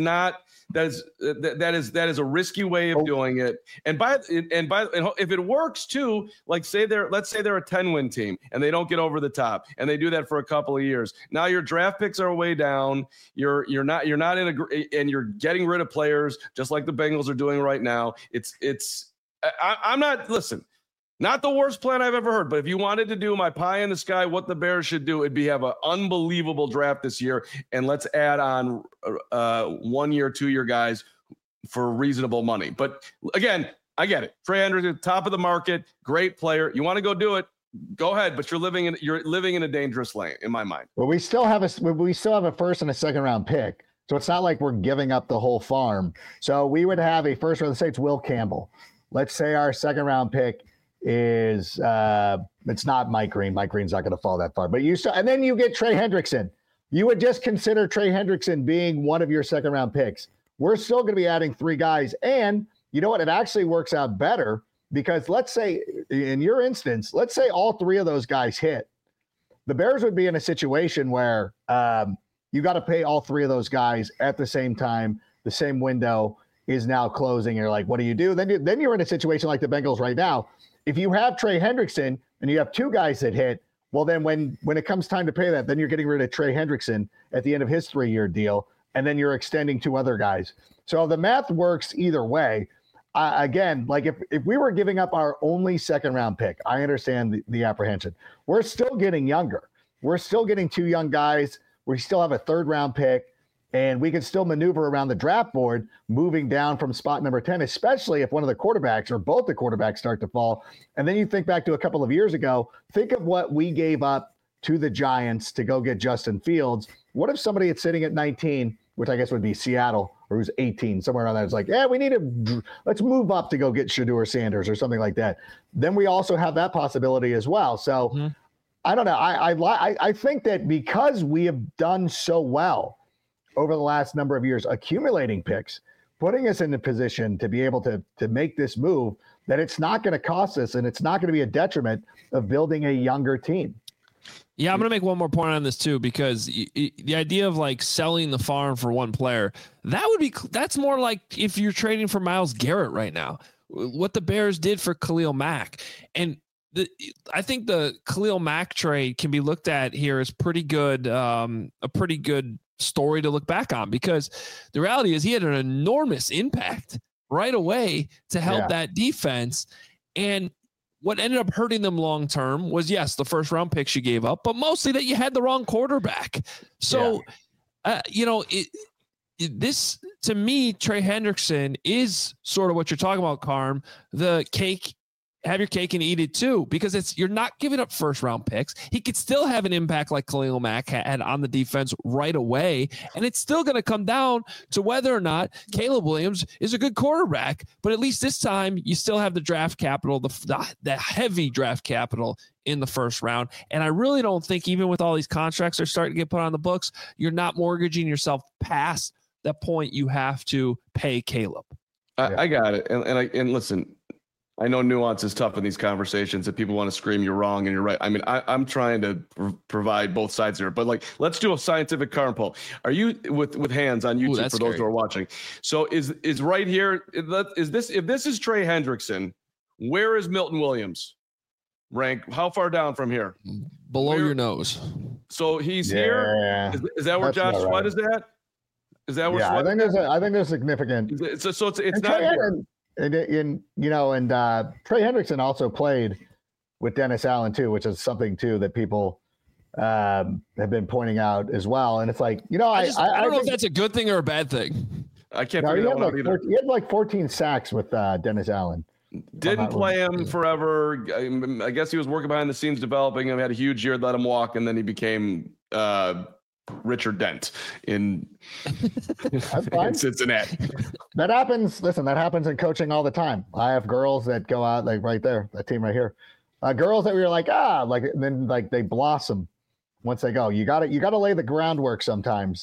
is a risky way of doing it. And if it works too, like let's say they're a 10-win team and they don't get over the top and they do that for a couple of years. Now your draft picks are way down. You're not and you're getting rid of players just like the Bengals are doing right now. I'm not, listen, not the worst plan I've ever heard, but if you wanted to do my pie in the sky, what the Bears should do, it'd be have an unbelievable draft this year. And let's add on 1 year, 2 year guys for reasonable money. But again, I get it. Trey Hendrickson, top of the market, great player. You want to go do it, go ahead. But you're living in a dangerous lane in my mind. Well, we still have a first and a second round pick. So it's not like we're giving up the whole farm. So we would have a first round, let's say it's Will Campbell. Let's say our second round pick is it's not Mike Green. Mike Green's not going to fall that far. But and then you get Trey Hendrickson. You would just consider Trey Hendrickson being one of your second round picks. We're still going to be adding 3 guys. And you know what? It actually works out better because let's say in your instance, let's say all 3 of those guys hit. The Bears would be in a situation where you got to pay all 3 of those guys at the same time. The same window is now closing. You're like, what do you do? Then you're in a situation like the Bengals right now. If you have Trey Hendrickson and you have 2 guys that hit, well, then when it comes time to pay that, then you're getting rid of Trey Hendrickson at the end of his 3-year deal, and then you're extending 2 other guys. So the math works either way. Again, like if we were giving up our only second-round pick, I understand the apprehension. We're still getting younger. We're still getting 2 young guys. We still have a third-round pick. And we can still maneuver around the draft board, moving down from spot number 10, especially if one of the quarterbacks or both the quarterbacks start to fall. And then you think back to a couple of years ago, think of what we gave up to the Giants to go get Justin Fields. What if somebody is sitting at 19, which I guess would be Seattle, or who's 18, somewhere around there, it's like, let's move up to go get Shedeur Sanders or something like that. Then we also have that possibility as well. So I don't know. I think that because we have done so well over the last number of years, accumulating picks, putting us in a position to be able to make this move, that it's not going to cost us and it's not going to be a detriment of building a younger team. Yeah, I'm going to make one more point on this too, because the idea of like selling the farm for one player, that's more like if you're trading for Myles Garrett right now, what the Bears did for Khalil Mack. And I think the Khalil Mack trade can be looked at here as pretty good, a pretty good story to look back on, because the reality is he had an enormous impact right away to help that defense. And what ended up hurting them long term was, yes, the first round picks you gave up, but mostly that you had the wrong quarterback. So, this to me, Trey Hendrickson is sort of what you're talking about, Carm. The cake. Have your cake and eat it too, because you're not giving up first round picks. He could still have an impact like Khalil Mack had on the defense right away. And it's still going to come down to whether or not Caleb Williams is a good quarterback. But at least this time you still have the draft capital, the heavy draft capital in the first round. And I really don't think, even with all these contracts that are starting to get put on the books, you're not mortgaging yourself past that point you have to pay Caleb. I got it. And listen, I know nuance is tough in these conversations that people want to scream you're wrong and you're right. I mean, I'm trying to provide both sides here, but like, let's do a scientific current poll. Are you with hands on YouTube for those who are watching? So is right here, if this is Trey Hendrickson, where is Milton Williams rank? How far down from here? Below your nose. So he's here. Is that where Josh Sweat is at? Is that where Sweat? I think there's significant. So it's not here. And Trey Hendrickson also played with Dennis Allen too, which is something too that people have been pointing out as well. And it's like, I don't know if that's a good thing or a bad thing. I can't figure that one out either. He had like 14 sacks with Dennis Allen. Didn't play him forever. I guess he was working behind the scenes developing him. Had a huge year, let him walk, and then he became Richard Dent in Cincinnati. That happens. Listen, that happens in coaching all the time. I have girls that go out like right there, that team right here. Girls that we were like, then like they blossom once they go. You got to lay the groundwork sometimes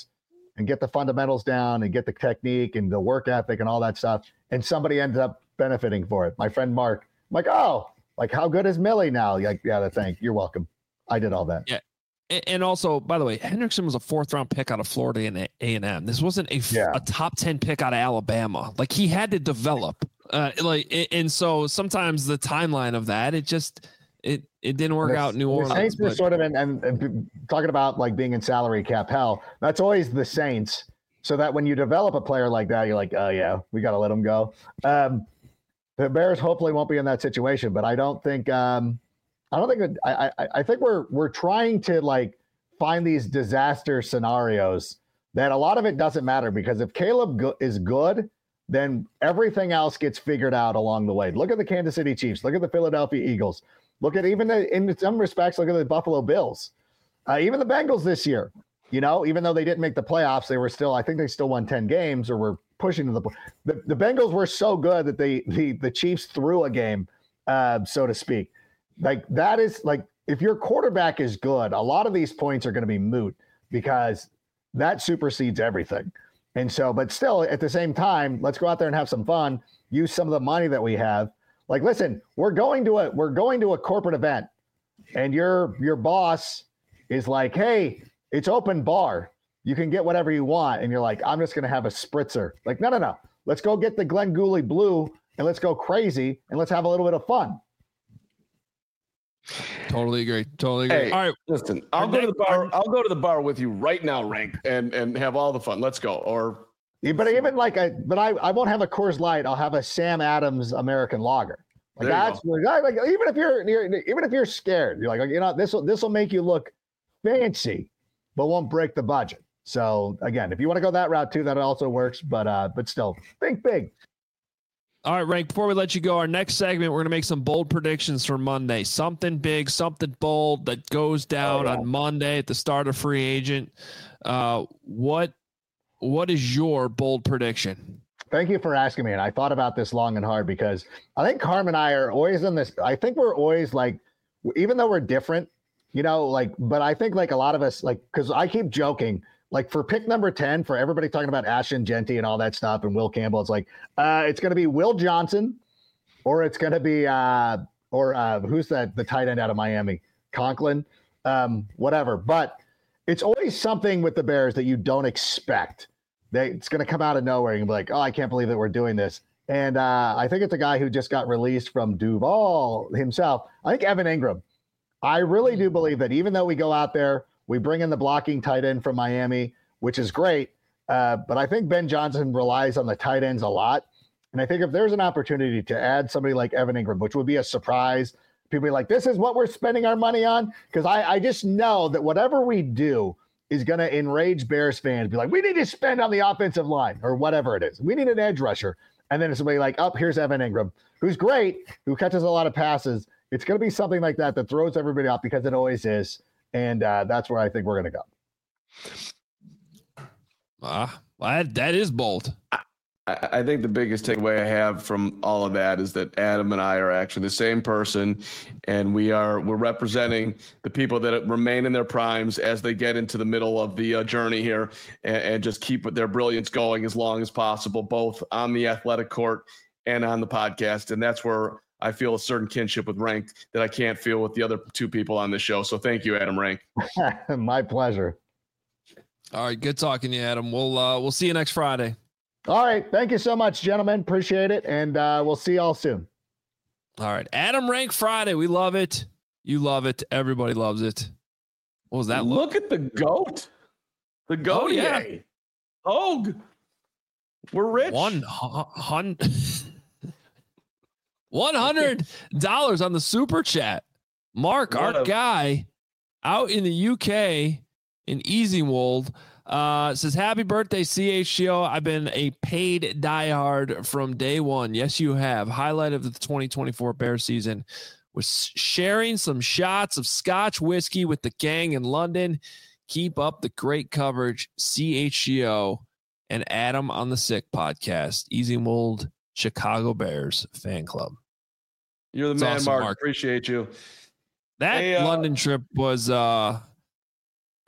and get the fundamentals down and get the technique and the work ethic and all that stuff. And somebody ends up benefiting for it. My friend Mark, I'm like, oh, like how good is Millie now? Like, yeah, thank you're welcome. I did all that. Yeah. And also, by the way, Hendrickson was a 4th round pick out of Florida and A&M. This wasn't a top 10 pick out of Alabama. Like he had to develop. And so sometimes the timeline of that, it didn't work out in New Orleans. The Saints were sort of and talking about like being in salary cap hell. That's always the Saints. So that when you develop a player like that, you're like, oh yeah, we got to let him go. The Bears hopefully won't be in that situation, but I think we're trying to like find these disaster scenarios that a lot of it doesn't matter because if Caleb is good, then everything else gets figured out along the way. Look at the Kansas City Chiefs. Look at the Philadelphia Eagles. Look at in some respects, look at the Buffalo Bills. Even the Bengals this year, even though they didn't make the playoffs, they were still, I think they still won 10 games or were pushing to the Bengals were so good that the Chiefs threw a game, so to speak. Like that is like, if your quarterback is good, a lot of these points are going to be moot because that supersedes everything. And so, but still at the same time, let's go out there and have some fun, use some of the money that we have. Like, listen, we're going to a corporate event and your boss is like, hey, it's open bar. You can get whatever you want. And you're like, I'm just going to have a spritzer. Like, no. Let's go get the Glenn Gooley Blue and let's go crazy and let's have a little bit of fun. Totally agree. Hey, all right, listen, I'll go to the bar with you right now, Rank, and have all the fun. Let's go. Or but even like I won't have a Coors Light. I'll have a Sam Adams American Lager. Like that's like even if you're scared, you're like, this will make you look fancy, but won't break the budget. So again, if you want to go that route too, that also works. But still, think big. All right, Rank, before we let you go, our next segment, we're going to make some bold predictions for Monday. Something big, something bold that goes down on Monday at the start of free agent. What is your bold prediction? Thank you for asking me. And I thought about this long and hard because I think Carm and I are always in this. I think we're always like, even though we're different, but I think like a lot of us, like, because I keep joking, like for pick number 10, for everybody talking about Ashton Genty and all that stuff and Will Campbell, it's like, it's going to be Will Johnson or it's going to be, who's the tight end out of Miami? Conklin, whatever. But it's always something with the Bears that you don't expect. It's going to come out of nowhere and be like, oh, I can't believe that we're doing this. And I think it's a guy who just got released from Duval himself. I think Evan Ingram. I really do believe that even though we go out there, we bring in the blocking tight end from Miami, which is great. But I think Ben Johnson relies on the tight ends a lot. And I think if there's an opportunity to add somebody like Evan Ingram, which would be a surprise, people be like, this is what we're spending our money on. Because I just know that whatever we do is going to enrage Bears fans. Be like, we need to spend on the offensive line or whatever it is. We need an edge rusher. And then it's somebody like, oh, here's Evan Ingram, who's great, who catches a lot of passes. It's going to be something like that throws everybody off because it always is. And that's where I think we're going to go. Well, that is bold. I think the biggest takeaway I have from all of that is that Adam and I are actually the same person, and we're representing the people that remain in their primes as they get into the middle of the journey here and just keep their brilliance going as long as possible, both on the athletic court and on the podcast. And that's where I feel a certain kinship with Rank that I can't feel with the other two people on this show. So thank you, Adam Rank. My pleasure. All right. Good talking to you, Adam. We'll see you next Friday. All right. Thank you so much, gentlemen. Appreciate it. And we'll see y'all soon. All right. Adam Rank Friday. We love it. You love it. Everybody loves it. What was that? Look at the GOAT. The GOAT. Oh, yeah. Hogue. We're rich. $100 on the super chat. Mark, our guy out in the UK in Easywold, says, happy birthday, CHGO. I've been a paid diehard from day one. Yes, you have. Highlight of the 2024 Bears season was sharing some shots of Scotch whiskey with the gang in London. Keep up the great coverage, CHGO and Adam on the Sick podcast. Easywold, Chicago Bears fan club. You're the man, awesome, Mark. Appreciate you. That London trip was, I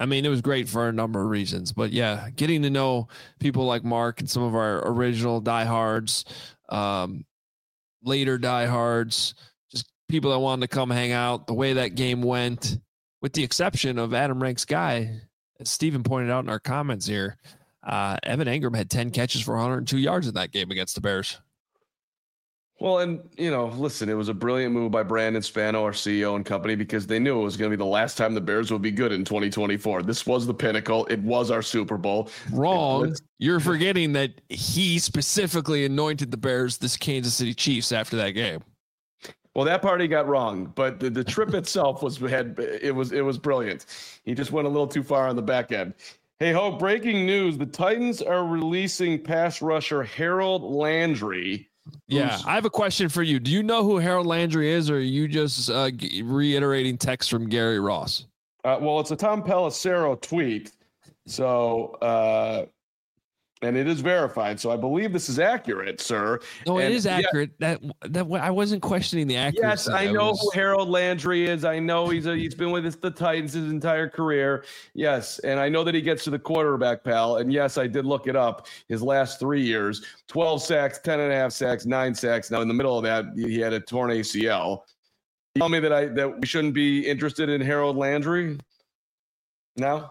I mean, it was great for a number of reasons, but yeah, getting to know people like Mark and some of our original diehards, later diehards, just people that wanted to come hang out, the way that game went, with the exception of Adam Rank's guy, as Steven pointed out in our comments here, Evan Engram had 10 catches for 102 yards in that game against the Bears. Well, and, listen, it was a brilliant move by Brandon Spano, our CEO and company, because they knew it was going to be the last time the Bears would be good in 2024. This was the pinnacle. It was our Super Bowl. Wrong. You're forgetting that he specifically anointed the Bears this Kansas City Chiefs after that game. Well, that part he got wrong, but the trip itself was brilliant. He just went a little too far on the back end. Hey, Hope, breaking news. The Titans are releasing pass rusher Harold Landry. Yeah, I have a question for you. Do you know who Harold Landry is, or are you just reiterating text from Gary Ross? Well, it's a Tom Pelissero tweet. So, and it is verified. So I believe this is accurate, sir. No, it is accurate. Yeah. That I wasn't questioning the accuracy. Yes, I know who Harold Landry is. I know he's been with the Titans his entire career. Yes, and I know that he gets to the quarterback, pal. And yes, I did look it up. His last 3 years, 12 sacks, 10.5 sacks, 9 sacks. Now in the middle of that, he had a torn ACL. You tell me that we shouldn't be interested in Harold Landry? No?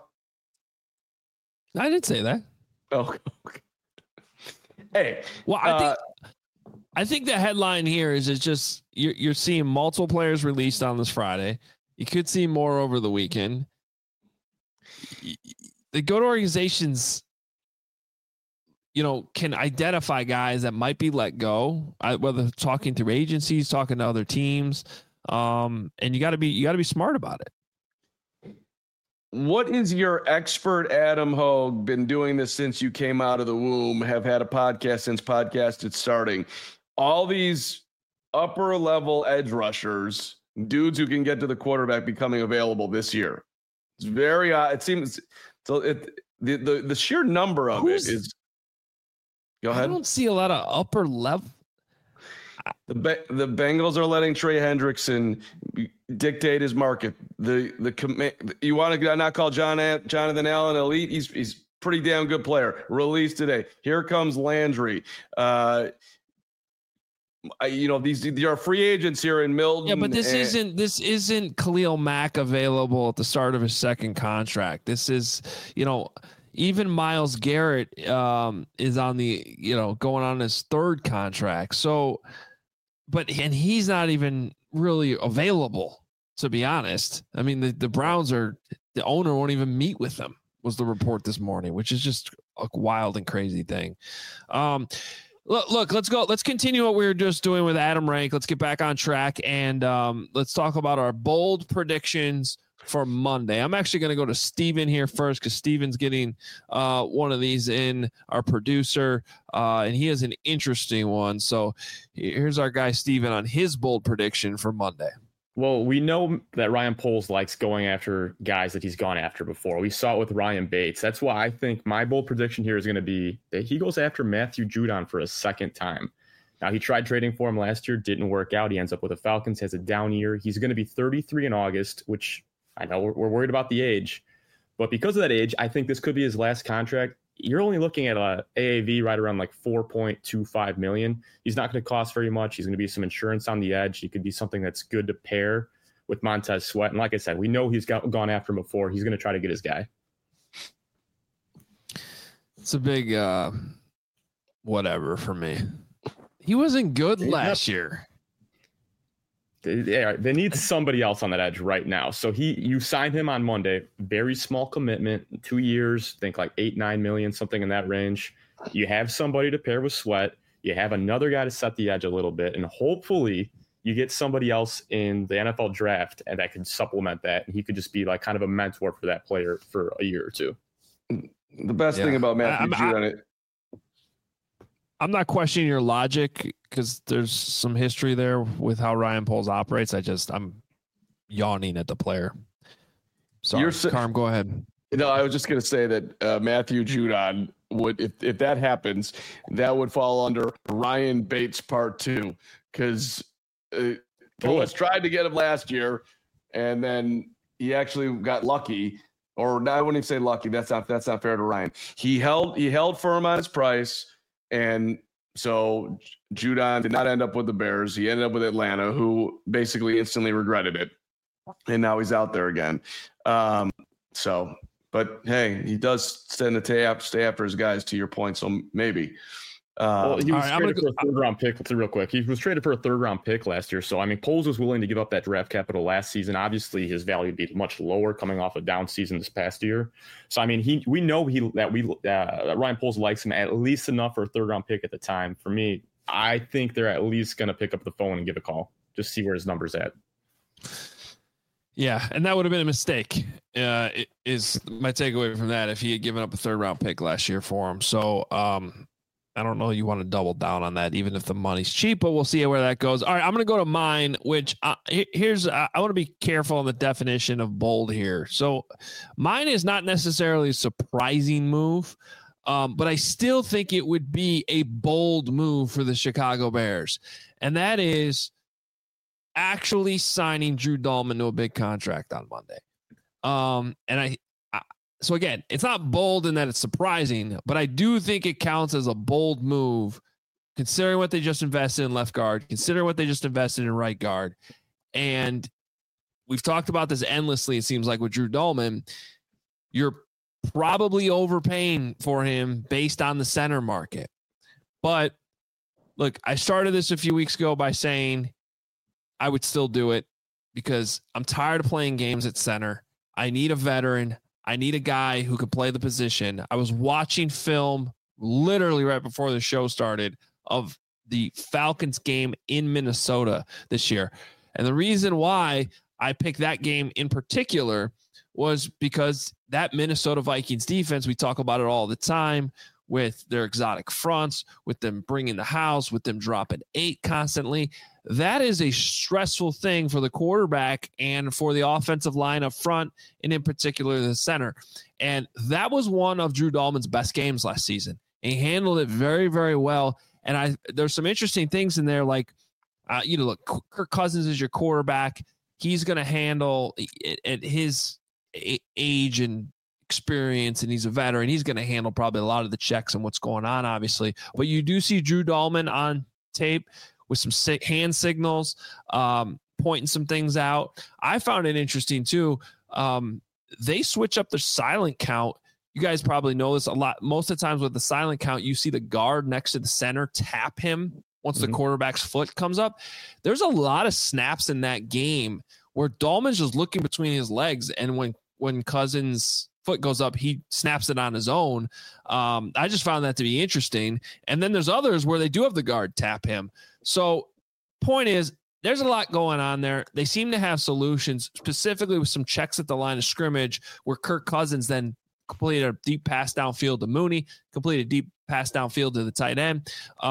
I didn't say that. Oh, okay. Hey, well, I think the headline here is it's just you're seeing multiple players released on this Friday. You could see more over the weekend. The go-to organizations, can identify guys that might be let go, whether talking through agencies, talking to other teams, and you got to be smart about it. What is your expert Adam Hogue been doing this since you came out of the womb, have had a podcast since podcasted starting? All these upper level edge rushers, dudes who can get to the quarterback becoming available this year. It's very odd. It seems so the sheer number of it is. Go ahead. I don't see a lot of upper level. The Bengals are letting Trey Hendrickson dictate his market. You want to not call Jonathan Allen elite? He's pretty damn good player. Released today. Here comes Landry. These are free agents here in Milton. Yeah, but this isn't Khalil Mack available at the start of his second contract. This is, even Myles Garrett is on the, going on his third contract. So, and he's not even really available, to be honest. I mean, the Browns the owner won't even meet with them, was the report this morning, which is just a wild and crazy thing. Look, let's go. Let's continue what we were just doing with Adam Rank. Let's get back on track and let's talk about our bold predictions for Monday. I'm actually going to go to Steven here first because Steven's getting one of these in, our producer, and he has an interesting one. So here's our guy Steven on his bold prediction for Monday. Well, we know that Ryan Poles likes going after guys that he's gone after before. We saw it with Ryan Bates. That's why I think my bold prediction here is going to be that he goes after Matthew Judon for a second time. Now, he tried trading for him last year, didn't work out. He ends up with the Falcons, has a down year. He's going to be 33 in August, which I know we're worried about the age. But because of that age, I think this could be his last contract. You're only looking at a AAV right around like $4.25 million. He's not going to cost very much. He's going to be some insurance on the edge. He could be something that's good to pair with Montez Sweat. And like I said, we know he's gone after him before. He's going to try to get his guy. It's a big whatever for me. He wasn't good last year. They need somebody else on that edge right now. So you signed him on Monday, very small commitment, 2 years, think like 8-9 million, something in that range. You have somebody to pair with Sweat. You have another guy to set the edge a little bit, and hopefully you get somebody else in the NFL draft and that can supplement that. And he could just be like kind of a mentor for that player for a year or two. The best thing about Matthew Judon, I'm not questioning your logic because there's some history there with how Ryan Poles operates. I'm yawning at the player. Sorry, Carm, go ahead. I was just going to say that Matthew Judon would, if that happens, that would fall under Ryan Bates Part 2 because Poles tried to get him last year, and then he actually got lucky. or I wouldn't even say lucky. That's not fair to Ryan. He held firm on his price, and so Judon did not end up with the Bears. He ended up with Atlanta, who basically instantly regretted it, and now he's out there again. But hey, he does tend to stay after his guys, to your point. So maybe. He was traded for a third-round pick. Real quick, he was traded for a third-round pick last year. So I mean, Poles was willing to give up that draft capital last season. Obviously, his value would be much lower coming off a down season this past year. So I mean, we know that Ryan Poles likes him at least enough for a third-round pick at the time. For me, I think they're at least going to pick up the phone and give a call, just see where his number's at. Yeah, and that would have been a mistake. It is my takeaway from that if he had given up a third-round pick last year for him. So. I don't know you want to double down on that, even if the money's cheap, but we'll see where that goes. All right, I'm going to go to mine, which I want to be careful on the definition of bold here. So mine is not necessarily a surprising move, but I still think it would be a bold move for the Chicago Bears. And that is actually signing Drew Dalman to a big contract on Monday. So again, it's not bold in that it's surprising, but I do think it counts as a bold move considering what they just invested in left guard, considering what they just invested in right guard. And we've talked about this endlessly, it seems like, with Drew Dalman. You're probably overpaying for him based on the center market. But look, I started this a few weeks ago by saying I would still do it because I'm tired of playing games at center. I need a veteran. I need a guy who can play the position. I was watching film literally right before the show started of the Falcons game in Minnesota this year. And the reason why I picked that game in particular was because that Minnesota Vikings defense, we talk about it all the time with their exotic fronts, with them bringing the house, with them dropping 8 constantly. That is a stressful thing for the quarterback and for the offensive line up front, and in particular the center. And that was one of Drew Dalman's best games last season. He handled it very, very well. And there's some interesting things in there, like, look, Kirk Cousins is your quarterback. He's going to handle at his age and experience, and he's a veteran. He's going to handle probably a lot of the checks and what's going on, obviously. But you do see Drew Dalman on tape with some hand signals, pointing some things out. I found it interesting too. They switch up their silent count. You guys probably know this a lot. Most of the times with the silent count, you see the guard next to the center tap him once the quarterback's foot comes up. There's a lot of snaps in that game where Dalman's just looking between his legs, and when Cousins' foot goes up, he snaps it on his own. I just found that to be interesting. And then there's others where they do have the guard tap him. So point is, there's a lot going on there. They seem to have solutions, specifically with some checks at the line of scrimmage where Kirk Cousins then completed a deep pass downfield to Mooney, completed a deep pass downfield to the tight end.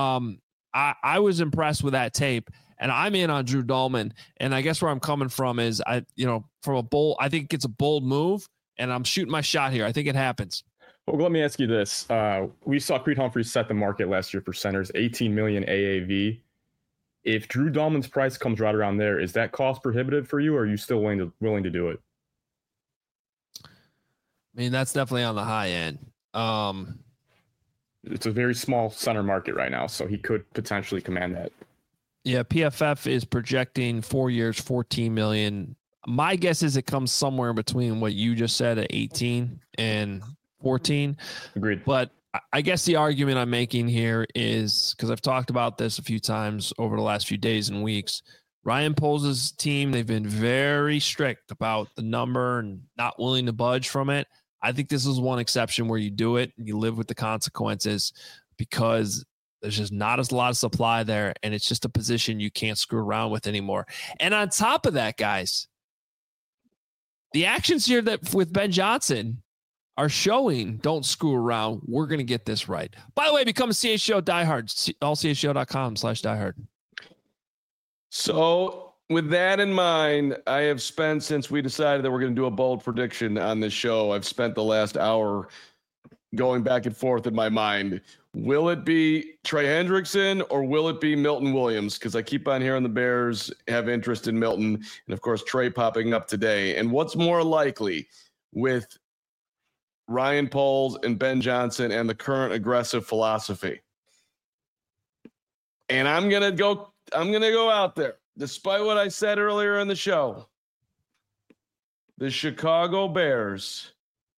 I was impressed with that tape, and I'm in on Drew Dalman. And I guess where I'm coming from is I think it's a bold move, and I'm shooting my shot here. I think it happens. Well, let me ask you this. We saw Creed Humphreys set the market last year for centers, $18 million AAV. If Drew Dalman's price comes right around there, is that cost prohibitive for you, or are you still willing to do it? I mean, that's definitely on the high end. It's a very small center market right now, so he could potentially command that. Yeah, PFF is projecting 4 years, $14 million. My guess is it comes somewhere between what you just said at 18 and 14. Agreed. But I guess the argument I'm making here is, because I've talked about this a few times over the last few days and weeks, Ryan Poles' team, they've been very strict about the number and not willing to budge from it. I think this is one exception where you do it and you live with the consequences, because there's just not a lot of supply there, and it's just a position you can't screw around with anymore. And on top of that, guys, the actions here that with Ben Johnson are showing don't screw around. We're going to get this right. By the way, become a CHGO diehard, allchgo.com/diehard. So with that in mind, I have spent, since we decided that we're going to do a bold prediction on this show, I've spent the last hour going back and forth in my mind. Will it be Trey Hendrickson or will it be Milton Williams? Because I keep on hearing the Bears have interest in Milton, and of course Trey popping up today. And what's more likely, with Ryan Poles and Ben Johnson and the current aggressive philosophy. And I'm going to go out there, despite what I said earlier in the show. The Chicago Bears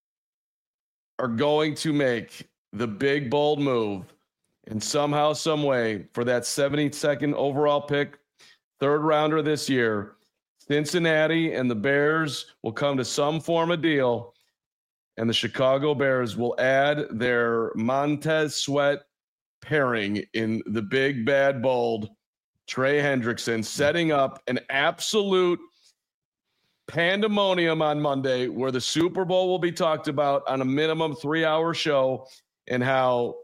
are going to make the big, bold move and somehow, some way, for that 72nd overall pick, third rounder this year, Cincinnati and the Bears will come to some form of deal, and the Chicago Bears will add their Montez Sweat pairing in the big, bad, bold Trey Hendrickson, setting up an absolute pandemonium on Monday where the Super Bowl will be talked about on a minimum 3-hour show, and how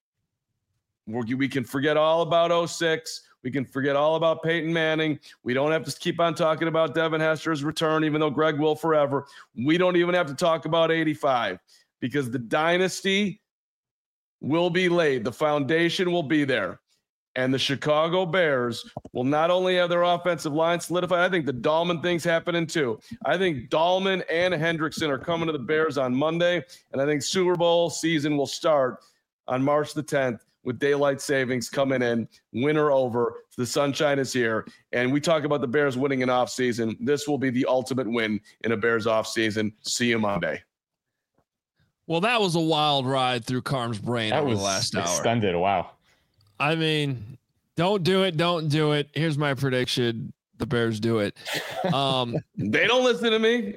we can forget all about 06. We can forget all about Peyton Manning. We don't have to keep on talking about Devin Hester's return, even though Greg will forever. We don't even have to talk about 85 because the dynasty will be laid. The foundation will be there. And the Chicago Bears will not only have their offensive line solidified, I think the Dahlman thing's happening too. I think Dahlman and Hendrickson are coming to the Bears on Monday, and I think Super Bowl season will start on March the 10th with daylight savings coming in, winter over, the sunshine is here. And we talk about the Bears winning an offseason. This will be the ultimate win in a Bears offseason. See you Monday. Well, that was a wild ride through Carm's brain That over was the last hour. extended. Wow. I mean, don't do it. Don't do it. Here's my prediction. The Bears do it. They don't listen to me.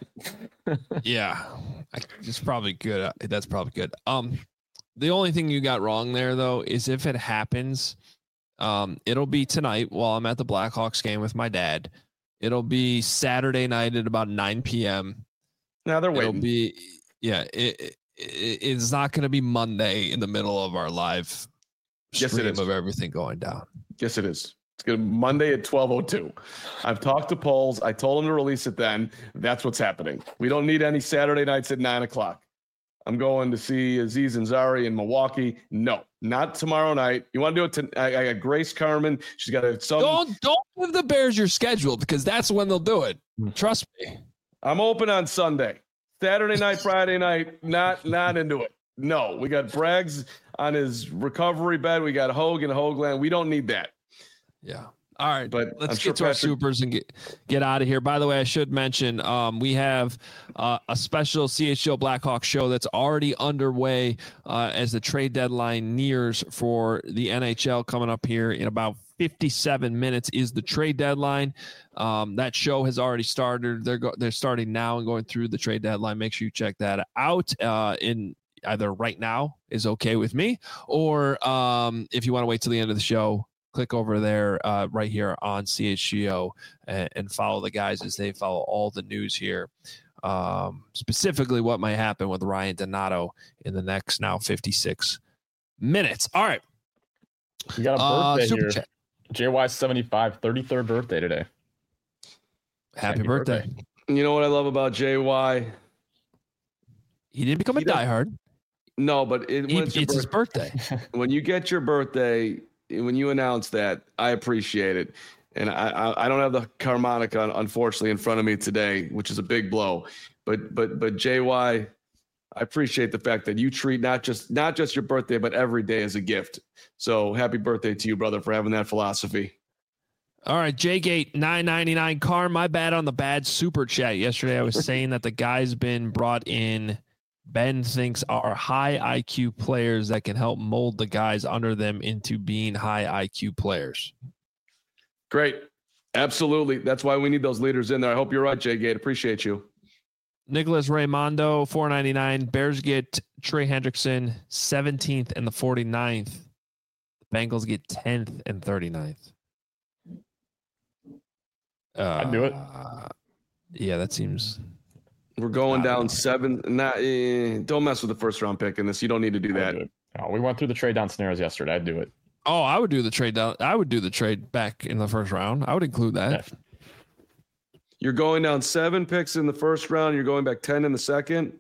Yeah, it's probably good. That's probably good. The only thing you got wrong there, though, is if it happens, it'll be tonight while I'm at the Blackhawks game with my dad. It'll be Saturday night at about 9 p.m. Now they're It'll waiting. be, yeah, it's not going to be Monday in the middle of our live Yes, it stream is. of everything going down. Yes, it is. It's going to be Monday at 12:02. I've talked to Poles. I told him to release it then. That's what's happening. We don't need any Saturday nights at 9 o'clock. I'm going to see Aziz Ansari in Milwaukee. No, not tomorrow night. You want to do it? I got Grace Carmen. She's got some. Don't give the Bears your schedule because that's when they'll do it. Trust me. I'm open on Sunday, Saturday night, Friday night. Not into it. No, we got Braggs on his recovery bed. We got Hogan, Hoagland. We don't need that. Yeah. All right, But let's I'm sure get to our Patrick- supers and get out of here. By the way, I should mention we have a special CHGO Blackhawks show that's already underway as the trade deadline nears for the NHL. Coming up here in about 57 minutes is the trade deadline. That show has already started. They're starting now and going through the trade deadline. Make sure you check that out. In either right now is okay with me, or if you want to wait till the end of the show, click over there right here on CHGO and follow the guys as they follow all the news here, specifically what might happen with Ryan Donato in the next now 56 minutes. All right. You got a birthday Super here. chat. JY 75, 33rd birthday today. Happy birthday. You know what I love about JY? He didn't become a diehard. No, but It's his birthday. when you get your birthday, when you announce that, I appreciate it. And I don't have the harmonica, unfortunately, in front of me today, which is a big blow. But JY, I appreciate the fact that you treat not just your birthday, but every day as a gift. So happy birthday to you, brother, for having that philosophy. All right, Jgate 999. Carm, my bad on the bad super chat. Yesterday I was saying that the guy's been brought in. Ben thinks are high IQ players that can help mold the guys under them into being high IQ players. Great. Absolutely. That's why we need those leaders in there. I hope you're right, Jay Gate. Appreciate you. Nicholas Raimondo, 499. Bears get Trey Hendrickson, 17th and the 49th. The Bengals get 10th and 39th. I'd do it. Yeah, that seems... We're going down 7. Don't mess with the first round pick in this. You don't need to do that. We went through the trade down scenarios yesterday. I'd do it. Oh, I would do the trade down. I would do the trade back in the first round. I would include that. Yeah. You're going down 7 picks in the first round. You're going back 10 in the second.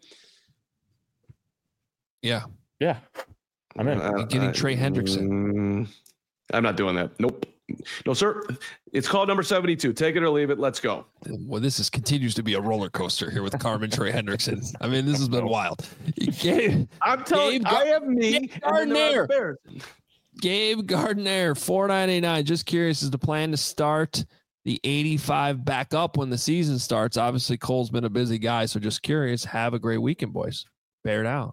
Yeah. Yeah. I'm in. Getting Trey Hendrickson. I'm not doing that. Nope. No, sir. It's called number 72. Take it or leave it. Let's go. Well, continues to be a roller coaster here with Carmen Trey Hendrickson. I mean, this has been wild. I'm telling you, I have me. Gabe Gardner. Gabe Gardner, $4.99. Just curious, is the plan to start the 85 back up when the season starts? Obviously, Cole's been a busy guy, so just curious. Have a great weekend, boys. Bear down.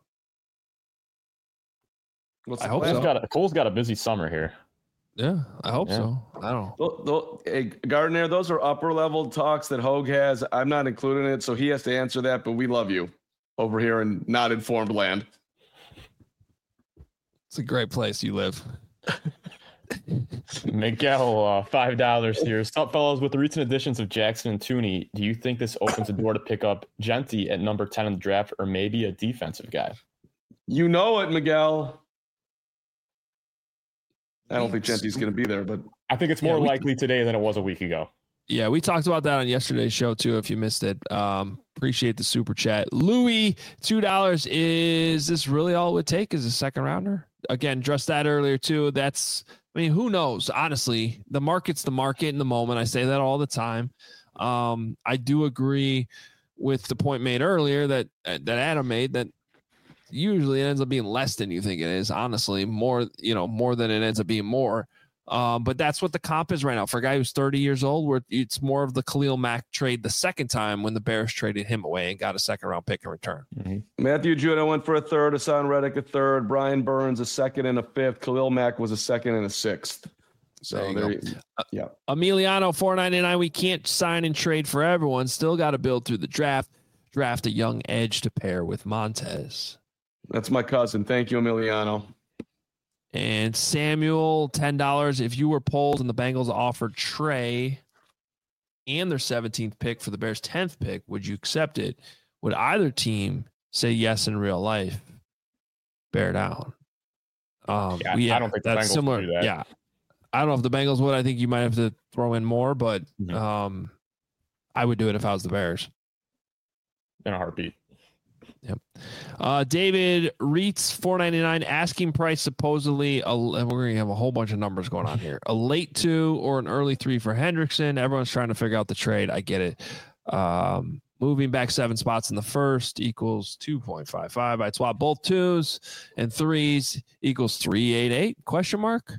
I hope so. Cole's got a busy summer here. Yeah, I hope so. I don't know. Hey, Gardner, those are upper level talks that Hogue has. I'm not including it, so he has to answer that, but we love you over here in not informed land. It's a great place you live. Miguel, $5 here. Stop, fellows. With the recent additions of Jackson and Tooney, do you think this opens the door to pick up Genty at number 10 in the draft, or maybe a defensive guy? You know it, Miguel. I don't think Genty's going to be there, but I think it's more likely today than it was a week ago. Yeah, we talked about that on yesterday's show too. If you missed it, appreciate the super chat. Louis, $2. Is this really all it would take as a second rounder? Again, addressed that earlier too. Who knows? Honestly, the market's the market in the moment. I say that all the time. I do agree with the point made earlier that Adam made, that usually it ends up being less than you think it is. Honestly, more than it ends up being more. But that's what the comp is right now for a guy who's 30 years old, where it's more of the Khalil Mack trade the second time when the Bears traded him away and got a second round pick in return. Mm-hmm. Matthew Judah went for a third, Hassan Reddick a third, Brian Burns a second and a fifth, Khalil Mack was a second and a sixth. So yeah. Emiliano, $4.99. We can't sign and trade for everyone. Still got to build through the draft. Draft a young edge to pair with Montez. That's my cousin. Thank you, Emiliano. And Samuel, $10. If you were polled and the Bengals offered Trey and their 17th pick for the Bears' 10th pick, would you accept it? Would either team say yes in real life? Bear down. I don't think that's similar. Do that. Yeah. I don't know if the Bengals would. I think you might have to throw in more, but I would do it if I was the Bears. In a heartbeat. Yep. David Reitz, $4.99. Asking price supposedly. We're going to have a whole bunch of numbers going on here. A late 2 or an early 3 for Hendrickson. Everyone's trying to figure out the trade. I get it. Moving back 7 spots in the first equals 2.55. I'd swap both 2s and 3s equals 388? Question mark.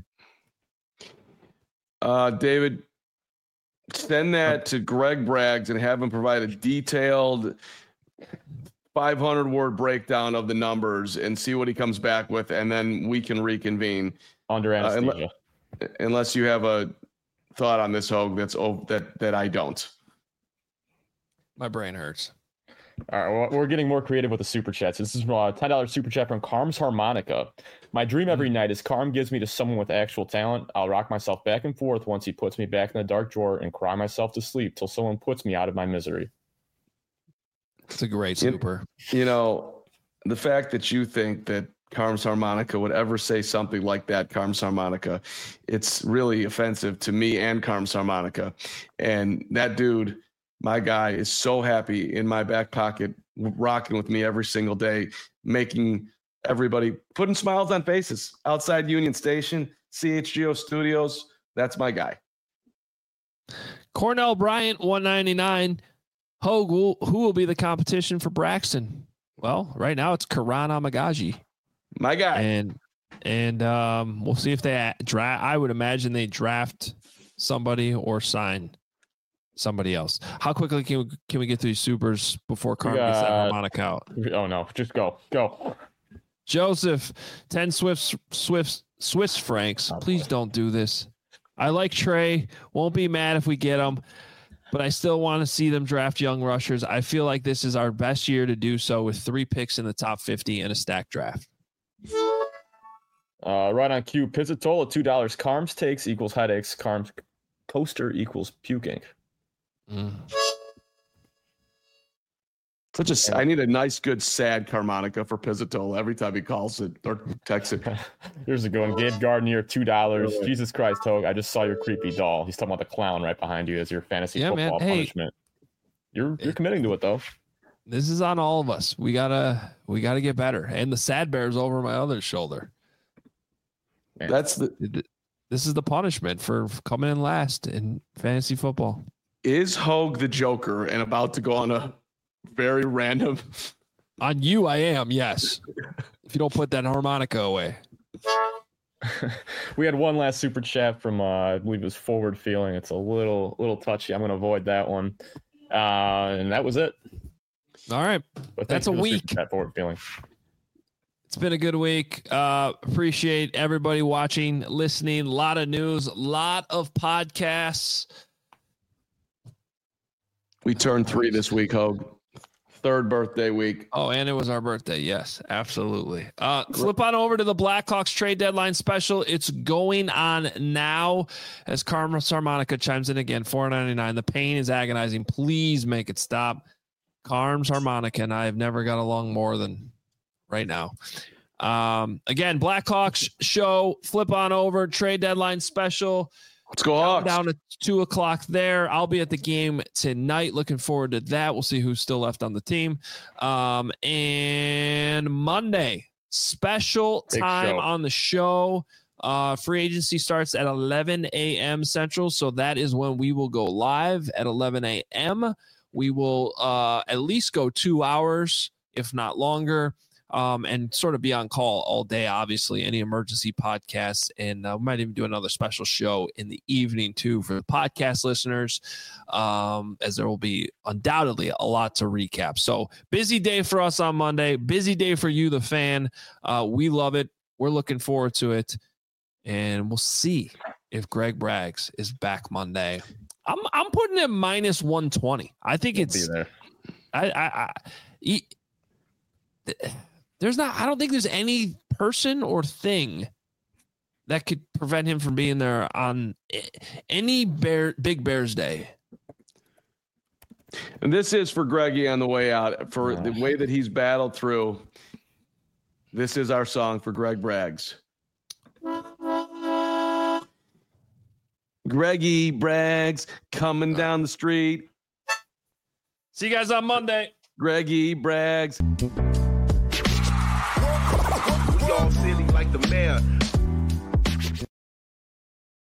David, send that to Greg Braggs and have him provide a detailed 500-word breakdown of the numbers and see what he comes back with, and then we can reconvene under anesthesia. Unless you have a thought on this, Hogue, that I don't. My brain hurts. All right, well, we're getting more creative with the super chats. This is a $10 super chat from Carm's Harmonica. My dream every night is Carm gives me to someone with actual talent. I'll rock myself back and forth once he puts me back in the dark drawer and cry myself to sleep till someone puts me out of my misery. It's a great super. The fact that you think that Carm's Harmonica would ever say something like that, Carm's Harmonica, it's really offensive to me and Carm's Harmonica. And that dude, my guy, is so happy in my back pocket, rocking with me every single day, making everybody, putting smiles on faces outside Union Station, CHGO Studios. That's my guy. Cornell Bryant, $1.99. Hogue, who will be the competition for Braxton? Well, right now it's Karan Amagaji. My guy. And we'll see if they draft. I would imagine they draft somebody or sign somebody else. How quickly can we get through supers before Carmen gets that harmonica out? Oh, no. Just go. Joseph, 10 Swiss francs. Please don't do this. I like Trey. Won't be mad if we get him. But I still want to see them draft young rushers. I feel like this is our best year to do so with 3 picks in the top 50 and a stacked draft. Right on cue. Pizzatola, $2. Carms takes equals headaches. Carms coaster equals puking. I need a nice, good, sad Carmonica for Pizzatola every time he calls it or texts it. Here's a good one. Gabe Gardner, $2. Really? Jesus Christ, Hogue. I just saw your creepy doll. He's talking about the clown right behind you as your fantasy football punishment. You're committing to it though. This is on all of us. We gotta get better. And the sad bear's over my other shoulder. Man. That's the This is the punishment for coming in last in fantasy football. Is Hogue the Joker and about to go on a very random? On you, I am. Yes. If you don't put that harmonica away. We had one last super chat from I believe it was Forward Feeling. It's a little touchy. I'm going to avoid that one. And that was it. All right. But that's a week. Forward Feeling. It's been a good week. Appreciate everybody watching, listening. A lot of news, a lot of podcasts. We turned 3 this week, Hogue. 3rd birthday week. Oh, and it was our birthday. Yes, absolutely. Flip on over to the Blackhawks trade deadline special. It's going on now as Carlos Harmonica chimes in again. $4.99. The pain is agonizing. Please make it stop. Carms Harmonica and I have never got along more than right now. Again, Blackhawks show. Flip on over. Trade deadline special. Let's go Hawks. Down at 2:00 there. I'll be at the game tonight. Looking forward to that. We'll see who's still left on the team. And Monday, special time on the show. Free agency starts at 11 a.m. Central. So that is when we will go live at 11 a.m. We will at least go 2 hours, if not longer. And sort of be on call all day, obviously, any emergency podcasts. And we might even do another special show in the evening, too, for the podcast listeners, as there will be undoubtedly a lot to recap. So busy day for us on Monday, busy day for you, the fan. We love it. We're looking forward to it. And we'll see if Greg Braggs is back Monday. I'm putting it minus 120. I think it's there. I don't think there's any person or thing that could prevent him from being there on any Big Bears day. And this is for Greggy on the way out, for the way that he's battled through. This is our song for Greg Braggs. Greggy Braggs coming down the street. See you guys on Monday. Greggy Braggs. Silly like the mayor.